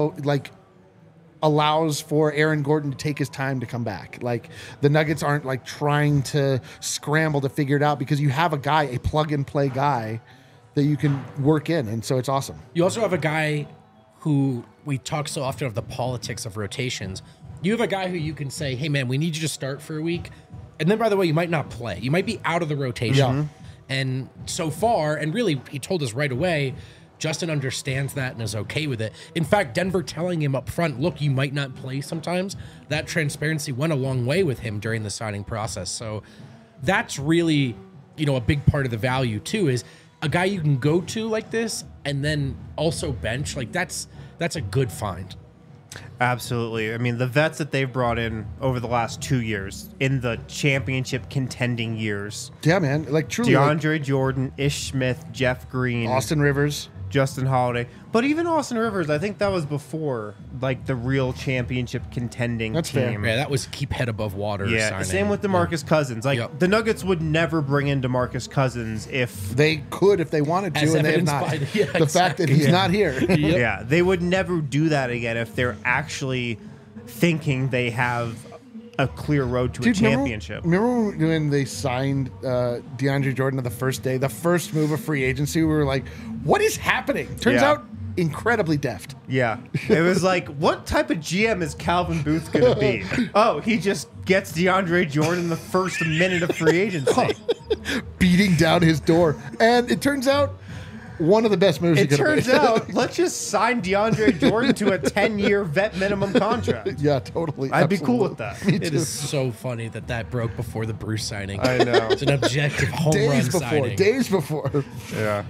allows for Aaron Gordon to take his time to come back. Like the Nuggets aren't like trying to scramble to figure it out because you have a guy, a plug-and-play guy that you can work in, and so it's awesome. You also have a guy who we talk so often of the politics of rotations. You have a guy who you can say, hey, man, we need you to start for a week. And then, by the way, you might not play. You might be out of the rotation. Yeah. And so far, and really, he told us right away, Justin understands that and is okay with it. In fact, Denver telling him up front, look, you might not play sometimes, that transparency went a long way with him during the signing process. So that's really, you know, a big part of the value too, is a guy you can go to like this and then also bench. Like that's a good find. Absolutely. I mean, the vets that they've brought in over the last 2 years, in the championship contending years. Yeah, man. Like truly. DeAndre Jordan, Ish Smith, Jeff Green, Austin Rivers, Justin Holiday. But even Austin Rivers, I think that was before like the real championship contending That's fair. team. Yeah, that was keep head above water. Yeah, signing. same with DeMarcus Cousins. Like Yep. the Nuggets would never bring in DeMarcus Cousins if they could if they wanted to, As and they have evidenced not. by the- yeah, the fact that exactly. he's not here. Yep. yeah, they would never do that again if they're actually thinking they have a clear road to a championship. Remember when they signed DeAndre Jordan on the first day, the first move of free agency? We were like, what is happening? Turns Yeah. out incredibly deft. Yeah, it was like, what type of GM is Calvin Booth going to be? Oh, he just gets DeAndre Jordan the first minute of free agency. Beating down his door. And it turns out one of the best moves he It could have turns made. out, let's just sign DeAndre Jordan to a 10-year vet minimum contract. Yeah, totally. I'd be cool with Absolutely. that. Me It too. is so funny that broke before the Bruce signing. I know. It's an objective home Days run before. signing. Days before. Yeah.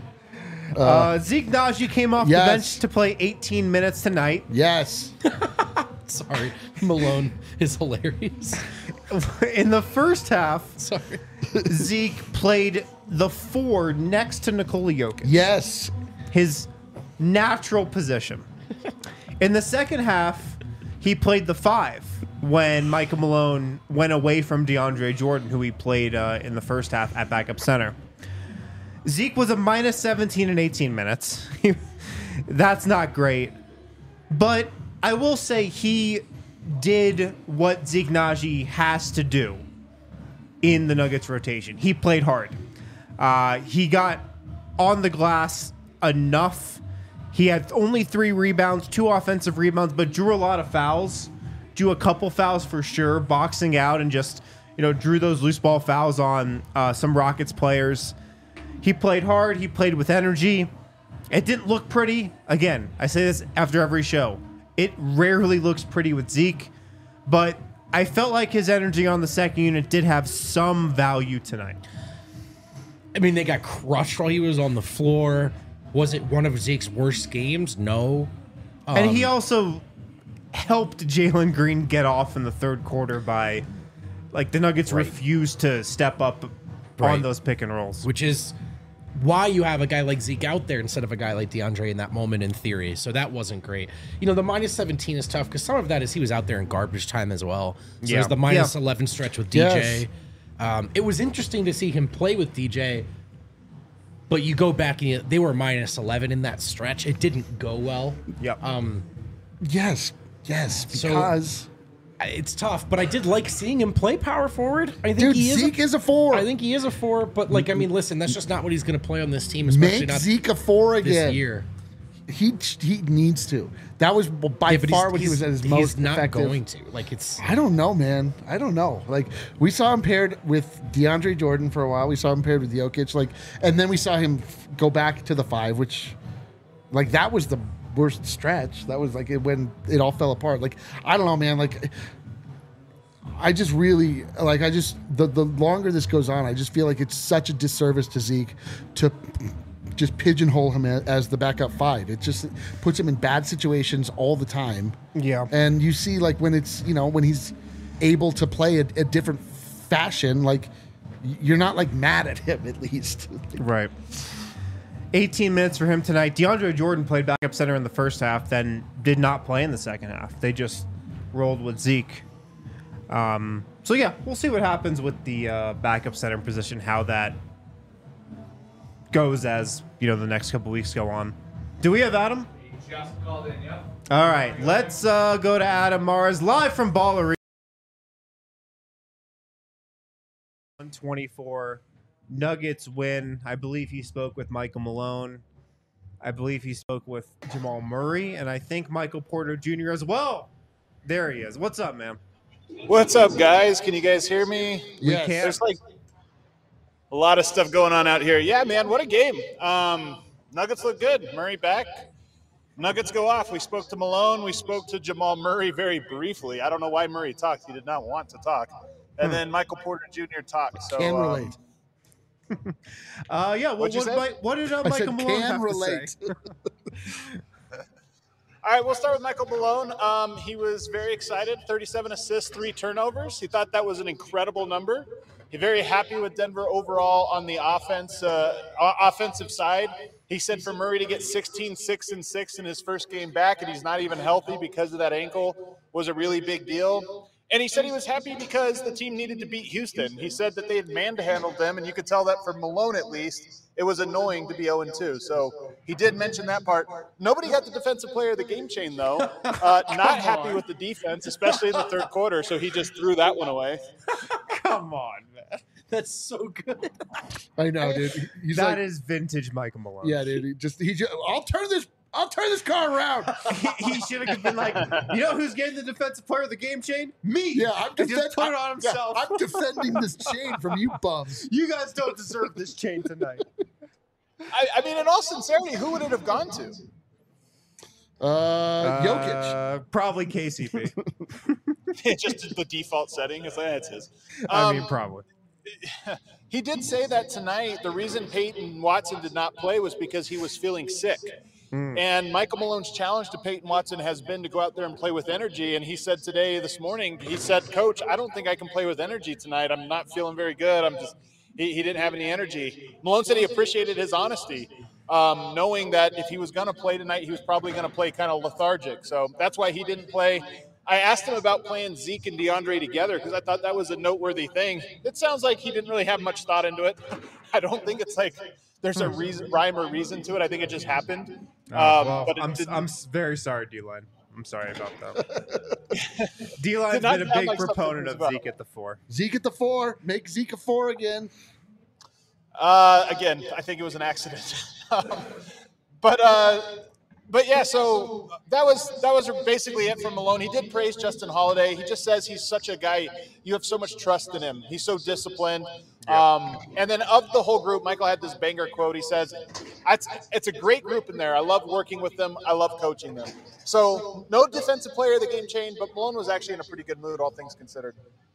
Zeke Naji came off Yes. the bench to play 18 minutes tonight. Yes. Sorry, Malone is hilarious. In the first half, Sorry. Zeke played the 4 next to Nikola Jokic, Yes. his natural position. In the second half, he played the 5 when Michael Malone went away from DeAndre Jordan, who he played in the first half at backup center. Zeke was a minus 17 in 18 minutes. That's not great. But I will say he did what Zeke Naji has to do in the Nuggets rotation. He played hard. He got on the glass enough. He had only 3 rebounds, 2 offensive rebounds, but drew a lot of fouls. Drew a couple fouls for sure, boxing out, and just, you know, drew those loose ball fouls on some Rockets players. He played hard. He played with energy. It didn't look pretty. Again, I say this after every show. It rarely looks pretty with Zeke, but I felt like his energy on the second unit did have some value tonight. I mean, they got crushed while he was on the floor. Was it one of Zeke's worst games? No. And he also helped Jalen Green get off in the third quarter by, like, the Nuggets refused to step up Right. on those pick and rolls. Which is why you have a guy like Zeke out there instead of a guy like DeAndre in that moment in theory. So that wasn't great. You know, the minus 17 is tough because some of that is he was out there in garbage time as well. So Yeah. there's the minus Yeah. 11 stretch with Yes. DJ. It was interesting to see him play with DJ, but you go back and they were minus 11 in that stretch. It didn't go well. Yep. Yes. Yes. So- Because It's tough, but I did like seeing him play power forward. I think dude, he is. Zeke is a 4. I think he is a 4, but like, I mean, listen, that's just not what he's going to play on this team, especially Make not Zeke a 4 this again. year. He needs to. That was by Yeah, but far when he was at his most He's not effective. going to. Like, it's I don't know, man. I don't know. Like, we saw him paired with DeAndre Jordan for a while. We saw him paired with Jokic. Like, and then we saw him go back to the 5, which, like, that was the worst stretch. That was like when it all fell apart. Like, I don't know, man. Like, I just really like. The longer this goes on, I just feel like it's such a disservice to Zeke to just pigeonhole him as the backup 5. It just puts him in bad situations all the time. Yeah. And you see, like, when it's, you know, when he's able to play a different fashion, like, you're not, like, mad at him, at least. Right. 18 minutes for him tonight. DeAndre Jordan played backup center in the first half, then did not play in the second half. They just rolled with Zeke. So, yeah, we'll see what happens with the backup center position, how that goes as, you know, the next couple weeks go on. Do we have Adam? He just called in, yep. All right, let's go to Adam Mars, live from Ball Arena. 124. Nuggets win. I believe he spoke with Michael Malone. I believe he spoke with Jamal Murray, and I think Michael Porter Jr. as well. There he is. What's up, man? What's up, guys? Can you guys hear me? We Yes. can't. There's like A lot of stuff going on out here. Yeah, man, what a game. Nuggets look good. Murray back. Nuggets go off. We spoke to Malone. We spoke to Jamal Murray very briefly. I don't know why Murray talked. He did not want to talk. And then Michael Porter Jr. talked. So, Can relate. Yeah. Well, what did Michael Malone have relate. to say? All right, we'll start with Michael Malone. He was very excited. 37 assists, 3 turnovers. He thought that was an incredible number. He's very happy with Denver overall on the offensive side. He said for Murray to get 16, 6, and 6 in his first game back, and he's not even healthy because of that ankle, was a really big deal. And he said he was happy because the team needed to beat Houston. He said that they had man-handled them, and you could tell that from Malone at least. It was annoying to be 0-2. So he did mention that part. Nobody got the defensive player of the game chain, though. Not happy with the defense, especially in the third quarter, so he just threw that one away. Come on, man. That's so good. I know, dude. That is vintage Michael Malone. Yeah, dude. I'll turn this car around. He should have been like, you know who's getting the defensive player of the game chain? Me. Yeah, I'm just put it on himself. I'm defending this chain from you bums. You guys don't deserve this chain tonight. I mean, in all sincerity, who would it have gone to? Jokic. Probably KCP. Just the default setting. It's like, it's his. I mean, probably. He did say that tonight the reason Peyton Watson did not play was because he was feeling sick. And Michael Malone's challenge to Peyton Watson has been to go out there and play with energy. And he said this morning, he said, Coach, I don't think I can play with energy tonight. I'm not feeling very good. He didn't have any energy. Malone said he appreciated his honesty, knowing that if he was going to play tonight, he was probably going to play kind of lethargic. So that's why he didn't play. I asked him about playing Zeke and DeAndre together because I thought that was a noteworthy thing. It sounds like he didn't really have much thought into it. I don't think it's like there's a rhyme or reason to it. I think it just happened. But I'm very sorry, D-Line. I'm sorry about that. D-Line's been a big proponent of Zeke at the 4. Zeke at the 4. Make Zeke a 4 again. Again, I think it was an accident. But yeah, so that was basically it from Malone. He did praise Justin Holiday. He just says he's such a guy. You have so much trust in him. He's so disciplined. And then of the whole group, Michael had this banger quote. He says, it's a great group in there. I love working with them. I love coaching them. So no defensive player of the game chain, but Malone was actually in a pretty good mood, all things considered.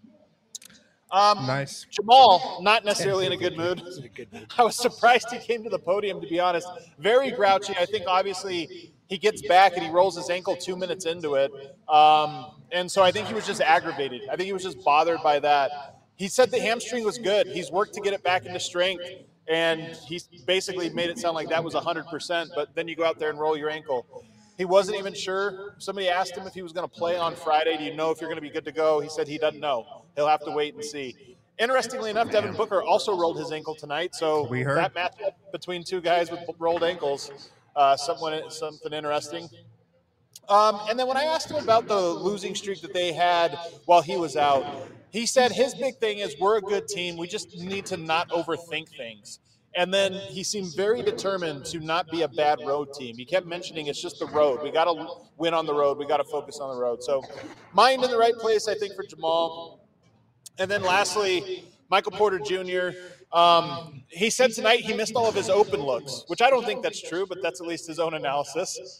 Nice. Jamal, not necessarily in a good mood. I was surprised he came to the podium, to be honest. Very grouchy. I think, obviously, he gets back and he rolls his ankle 2 minutes into it. And so I think he was just aggravated. I think he was just bothered by that. He said the hamstring was good. He's worked to get it back into strength, and he basically made it sound like that was 100%, but then you go out there and roll your ankle. He wasn't even sure. Somebody asked him if he was going to play on Friday. Do you know if you're going to be good to go? He said he doesn't know. He'll have to wait and see. Interestingly enough, Devin Booker also rolled his ankle tonight. So that matchup between two guys with rolled ankles, something interesting. And then when I asked him about the losing streak that they had while he was out, he said his big thing is we're a good team. We just need to not overthink things. And then he seemed very determined to not be a bad road team. He kept mentioning it's just the road. We got to win on the road. We got to focus on the road. So mind in the right place, I think, for Jamal. And then lastly, Michael Porter Jr., he said tonight he missed all of his open looks, which I don't think that's true, but that's at least his own analysis.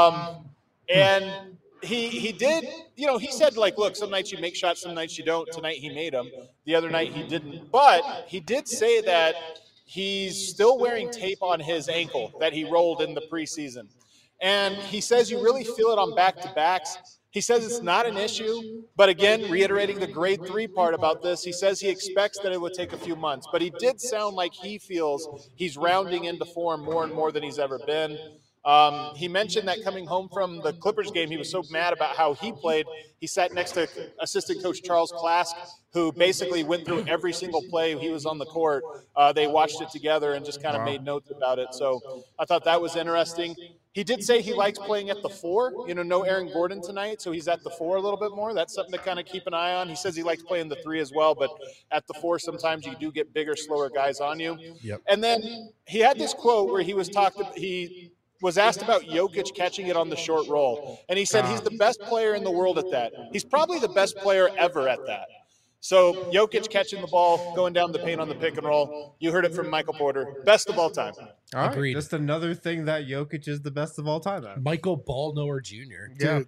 And he did, he said, like, look, some nights you make shots, some nights you don't. Tonight he made them. The other night he didn't. But he did say that he's still wearing tape on his ankle that he rolled in the preseason. And he says you really feel it on back-to-backs. He says it's not an issue, but again, reiterating the grade 3 part about this, he says he expects that it would take a few months. But he did sound like he feels he's rounding into form more and more than he's ever been. He mentioned that coming home from the Clippers game, he was so mad about how he played. He sat next to assistant coach Charles Klask, who basically went through every single play he was on the court. They watched it together and just kind of made notes about it. So I thought that was interesting. He did say he likes playing at the 4. No Aaron Gordon tonight, so he's at the 4 a little bit more. That's something to kind of keep an eye on. He says he likes playing the 3 as well, but at the 4 sometimes you do get bigger, slower guys on you. Yep. And then he had this quote where he was asked about Jokic catching it on the short roll. And he said he's the best player in the world at that. He's probably the best player ever at that. So Jokic catching the ball, going down the paint on the pick and roll. You heard it from Michael Porter. Best of all time. All right, Agreed. just another thing that Jokic is the best of all time at. Michael Ballnower Jr. Yeah.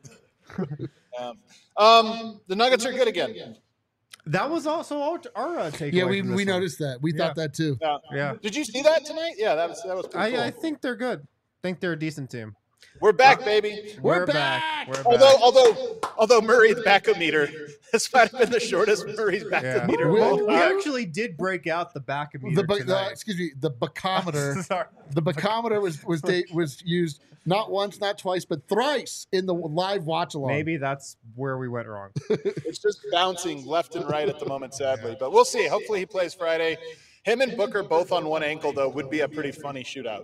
The Nuggets are good again. That was also our takeaway. Yeah, we from this one. noticed that. We thought that too. Yeah. Did you see that tonight? Yeah, that was pretty cool. I think they're good. I think they're a decent team. We're back, baby. We're back. We're back. Although Murray's backup meter, this might have been the shortest Murray's backup meter. of all We time. actually did break out the back of meter tonight. Excuse me, the bacometer. Sorry. The bacometer was used not once, not twice, but thrice in the live watch along. Maybe that's where we went wrong. It's just bouncing left and right at the moment, sadly. But we'll see. Hopefully he plays Friday. Him and Booker both on one ankle, though, would be a pretty funny shootout.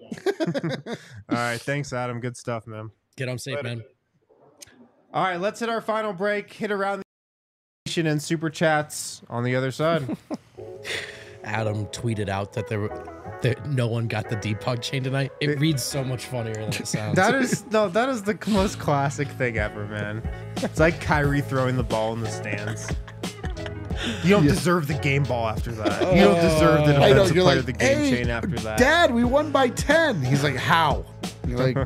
All right. Thanks, Adam. Good stuff, man. Get home safe, man. All right. Let's hit our final break. Hit around the nation and super chats on the other side. Adam tweeted out that no one got the debug chain tonight. It reads so much funnier than it sounds. That is the most classic thing ever, man. It's like Kyrie throwing the ball in the stands. You don't deserve the game ball after that. You don't deserve the defensive player of the game "Hey, chain after that. Dad, we won by 10. He's like, how? You're like,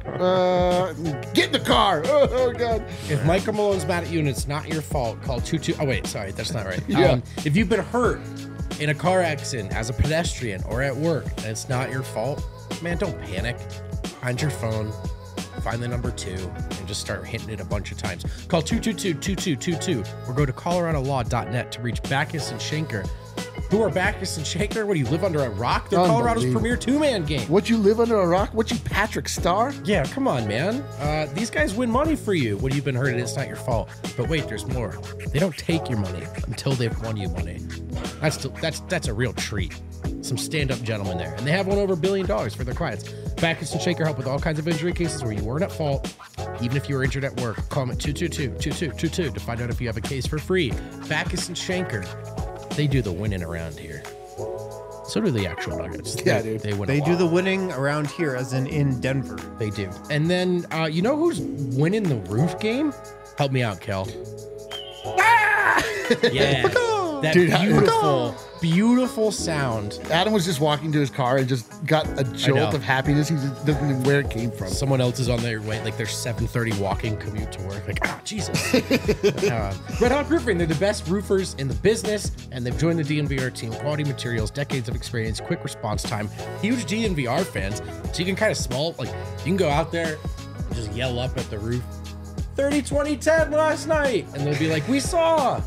get in the car. Oh God. If Michael Malone's mad at you and it's not your fault, call 22. Oh, wait, sorry, that's not right. Yeah. If you've been hurt in a car accident as a pedestrian or at work and it's not your fault, man, don't panic. Find your phone, find the number 2, and just start hitting it a bunch of times. Call 222-2222 or go to coloradolaw.net to reach Backus and Schenker. Who are Backus and Schenker? What do you live under a rock? They're Colorado's premier 2-man game. What, you live under a rock? What, you Patrick Starr? Yeah, come on, man. These guys win money for you when you've been hurt and it's not your fault. But wait, there's more. They don't take your money until they've won you money. That's a real treat. Some stand-up gentlemen there. And they have won over $1 billion for their clients. Backus and Schenker help with all kinds of injury cases where you weren't at fault. Even if you were injured at work, call them at 222-2222 to find out if you have a case for free. Backus and Schenker, they do the winning around here. So do the actual Nuggets. Yeah, dude. They win They a do lot. the winning around here, as in Denver. They do. And then, you know who's winning the roof game? Help me out, Kel. Yeah. That Dude, beautiful sound. Adam was just walking to his car and just got a jolt know. of happiness. He just doesn't know where it came from. Someone else is on their way, like their 7:30 walking commute to work. Like, Jesus. Red Hawk Roofing, they're the best roofers in the business, and they've joined the DNVR team. Quality materials, decades of experience, quick response time. Huge DNVR fans, so you can kind of small, like, you can go out there and just yell up at the roof, 30, 20, 10 last night, and they'll be like, we saw.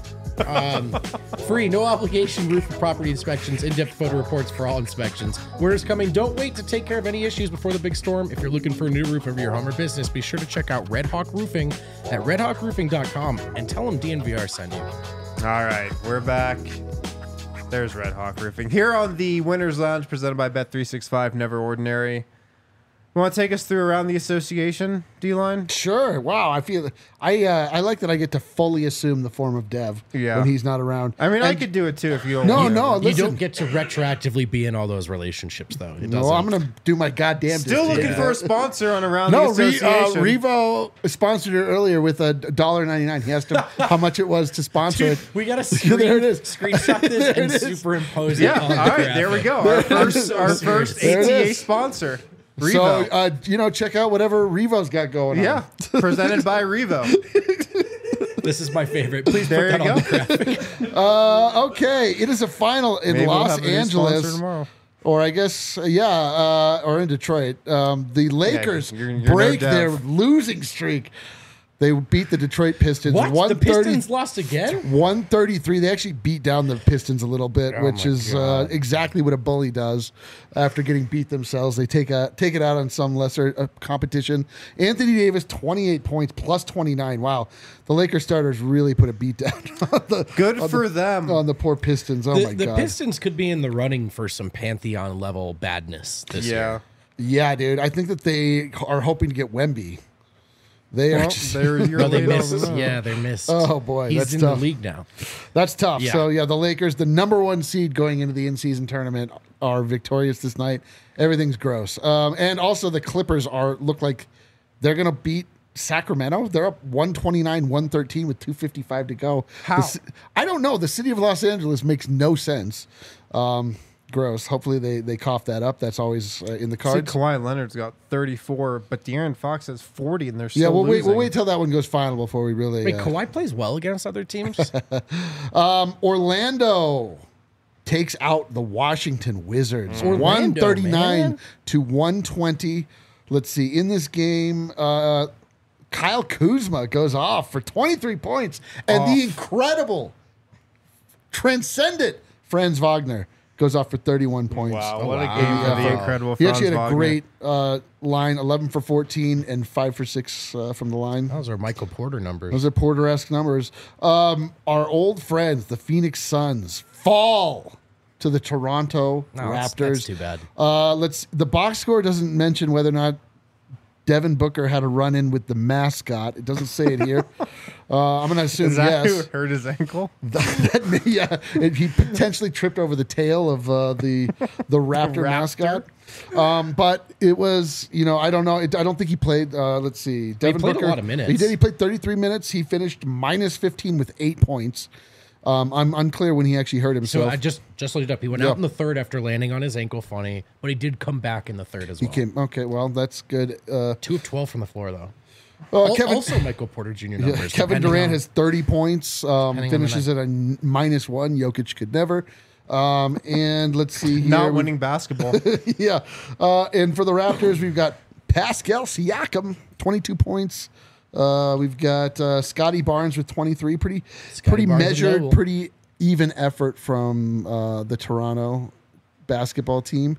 Free, no obligation roof and property inspections, in-depth photo reports for all inspections. Winter's coming. Don't wait to take care of any issues before the big storm. If you're looking for a new roof over your home or business, be sure to check out Red Hawk Roofing at redhawkroofing.com and tell them DNVR sent you. All right, we're back. There's Red Hawk Roofing here on the Winners Lounge, presented by Bet365. Never Ordinary. You want to take us through around the association, D-Line? Sure. Wow. I like that I get to fully assume the form of Dev when he's not around. I mean, I And- could do it too if you don't No, want to. no. You Listen, don't get to retroactively be in all those relationships, though. It no, doesn't. I'm gonna do my goddamn. Still looking for a sponsor on Around No, the Association. Revo sponsored it earlier with $1.99. He asked him how much it was to sponsor Dude, it. we got to There it is. screenshot this There and it is. superimpose Yeah, it on all the right, there we graphic. go. Our first There it ATA is. sponsor, Revo. So, check out whatever Revo's got going on. Yeah, presented by Revo. This is my favorite. Please There put that you on the graphic. Okay, it is a final in Maybe we'll Los have a new sponsor Angeles. tomorrow. Or I guess, or in Detroit. The Lakers you're no break Dev. their losing streak. They beat the Detroit Pistons. What? The 130 Pistons lost again? 133. They actually beat down the Pistons a little bit, which my is God. exactly what a bully does after getting beat themselves. They take it out on some lesser competition. Anthony Davis, 28 points, plus 29. Wow. The Lakers starters really put a beat down on them. on the poor Pistons. Oh, my The God. Pistons could be in the running for some Pantheon level badness this year. Yeah, dude. I think that they are hoping to get Wemby. They are. No, they missed. Yeah, they missed. Oh, boy, he's that's in tough. the league now. That's tough. Yeah. So, the Lakers, the number 1 seed going into the in-season tournament, are victorious this night. Everything's gross. And also the Clippers look like they're going to beat Sacramento. They're up 129-113 with 2:55 to go. How? I don't know. The city of Los Angeles makes no sense. Gross. Hopefully they cough that up. That's always in the See, cards. Kawhi Leonard's got 34, but De'Aaron Fox has 40, and they're Yeah, still losing. we'll wait till that one goes final before we really. Wait, Kawhi plays well against other teams? Orlando takes out the Washington Wizards. Orlando, 139 man. to 120. Let's see. In this game, Kyle Kuzma goes off for 23 points. And the incredible, transcendent Franz Wagner goes off for 31 points. Wow, what a game for the incredible He Franz actually had a Wagner. great line, 11 for 14 and 5 for 6 from the line. Those are Michael Porter numbers. Those are Porter-esque numbers. Our old friends, the Phoenix Suns, fall to the Toronto Raptors. That's too bad. The box score doesn't mention whether or not Devin Booker had a run-in with the mascot. It doesn't say it here. I'm going to assume Is that yes. who hurt his ankle? He potentially tripped over the tail of the Raptor mascot. But it was, I don't know. I don't think he played. Let's see. Devin played a Booker, lot of minutes. He did. He played 33 minutes. He finished minus 15 with 8 points. I'm unclear when he actually hurt himself. So I just looked it up. He went out in the third after landing on his ankle funny, but he did come back in the third as well. Okay, well, that's good. 2 of 12 from the floor, though. Kevin, Also Michael Porter Jr. numbers. Kevin Durant has 30 points, on the finishes at a -1. Jokic could never. And let's see here. Not winning basketball. Yeah. And for the Raptors, we've got Pascal Siakam, 22 points. We've got Scotty Barnes with 23. Pretty Barnes measured, and pretty even effort from the Toronto basketball team.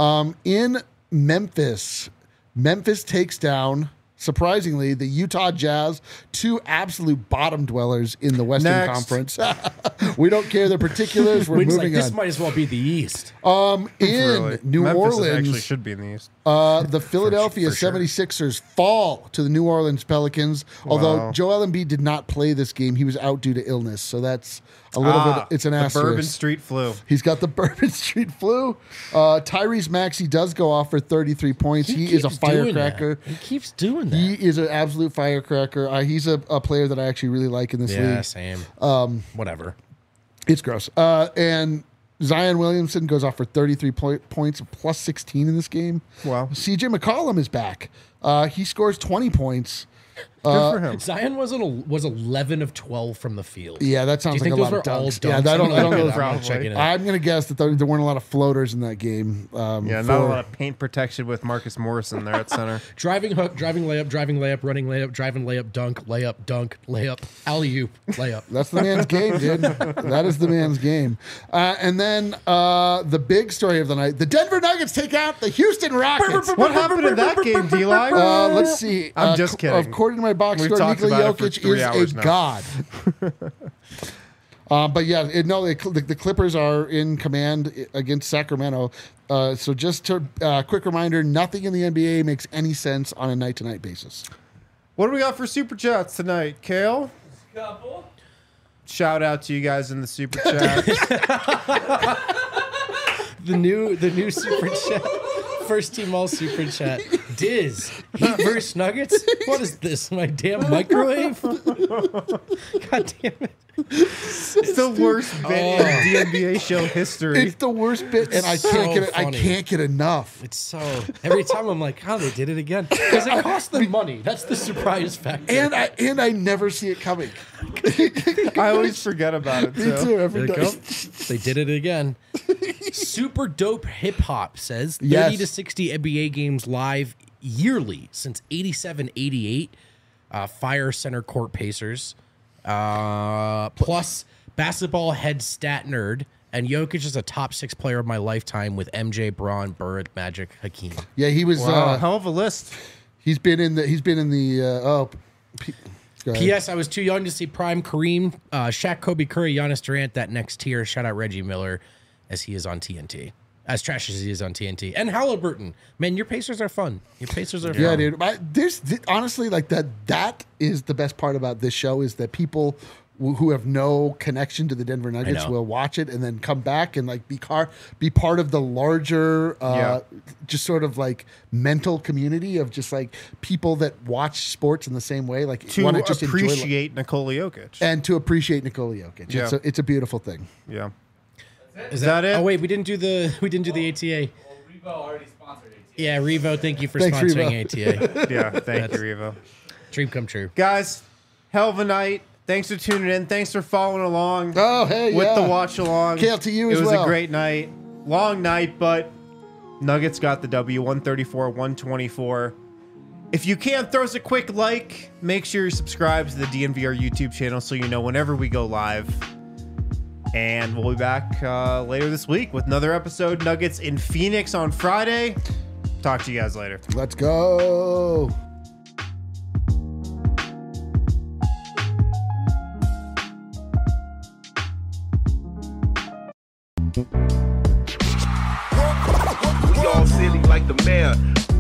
In Memphis takes down, surprisingly, the Utah Jazz, 2 absolute bottom dwellers in the Western Next. Conference. We don't care the particulars. We're Wins moving this on. might as well be the East. In Really. New Memphis Orleans, actually should be in the East. the Philadelphia for sure. 76ers fall to the New Orleans Pelicans, although Wow. Joel Embiid did not play this game. He was out due to illness, so that's a little bit, it's an the asterisk. Bourbon Street flu. He's got the Bourbon Street flu. Tyrese Maxey does go off for 33 points. He is a keeps doing firecracker. that. He keeps doing that. He is an absolute firecracker. He's a player that I actually really like in this yeah, league. same. Whatever. It's gross. And Zion Williamson goes off for 33 points, plus 16 in this game. Wow. CJ McCollum is back. He scores 20 points. Good for him. Zion was 11 of 12 from the field. Yeah, that Do you sounds like think a those lot were of all dunks. dunks? Yeah, I don't know. I'm not checking it. I'm going to guess that there weren't a lot of floaters in that game. Yeah, not a lot of paint protection with Marcus Morrison there at center. Driving hook, driving layup, running layup, driving layup, dunk, layup, alley-oop, layup. That's the man's game, dude. That is the man's game. And then the big story of the night, the Denver Nuggets take out the Houston Rockets. What happened in that game, D-Line? Let's see. I'm just kidding. According to my box We've score, talked Nikola about it for Jokic 3 is hours a now. god. But yeah, the Clippers are in command against Sacramento. So just to quick reminder, nothing in the NBA makes any sense on a night-to-night basis. What do we got for Super Chats tonight, Kale? Couple. Shout out to you guys in the Super Chat. The new super chat. First team all super chat. Diz. Heat versus Nuggets? What is this? My damn microwave? God damn it. It's the worst bit in DNBA show history. It's the worst bit, and I So can't get it. I funny. can't get enough. It's so every time I'm like, oh, they did it again. Because it cost them money. That's the surprise factor. And I never see it coming. I always forget about it, Me too. too. Every There you day. go. They did it again. Super dope hip hop says 30 Yes. to 60 NBA games live yearly since 87-88. Fire Center Court Pacers. Plus basketball head stat nerd. And Jokic is a top 6 player of my lifetime with MJ, Braun, Bird, Magic, Hakeem. Yeah, he was. Wow, hell of a list. He's been in the. Go ahead. P.S. I was too young to see Prime Kareem, Shaq, Kobe, Curry, Giannis Durant, that next tier. Shout out Reggie Miller as he is on TNT. As trash as he is on TNT. And Halliburton. Man, your Pacers are fun. Your Pacers are fun. Yeah, dude. Honestly, like that is the best part about this show is that people who have no connection to the Denver Nuggets know. will watch it and then come back and like be part of the larger, just sort of like mental community of just like people that watch sports in the same way, like To wanna just enjoy appreciate Nikola Jokic. and to appreciate Nikola Jokic. Yeah. It's a beautiful thing. Yeah. Is that it? Oh wait, we didn't do the ATA. Revo already sponsored ATA. Yeah, Revo, thank you for Thanks, sponsoring Revo. ATA. Yeah. Thank you, Revo. Dream come true. Guys, hell of a night. Thanks for tuning in. Thanks for following along Oh, hey, with yeah. the watch along. Kale, to you it as was well. a great night. Long night, but Nuggets got the W, 134-124. If you can, throw us a quick like. Make sure you subscribe to the DNVR YouTube channel so you know whenever we go live. And we'll be back later this week with another episode. Nuggets in Phoenix on Friday. Talk to you guys later. Let's go. We all silly like the mayor.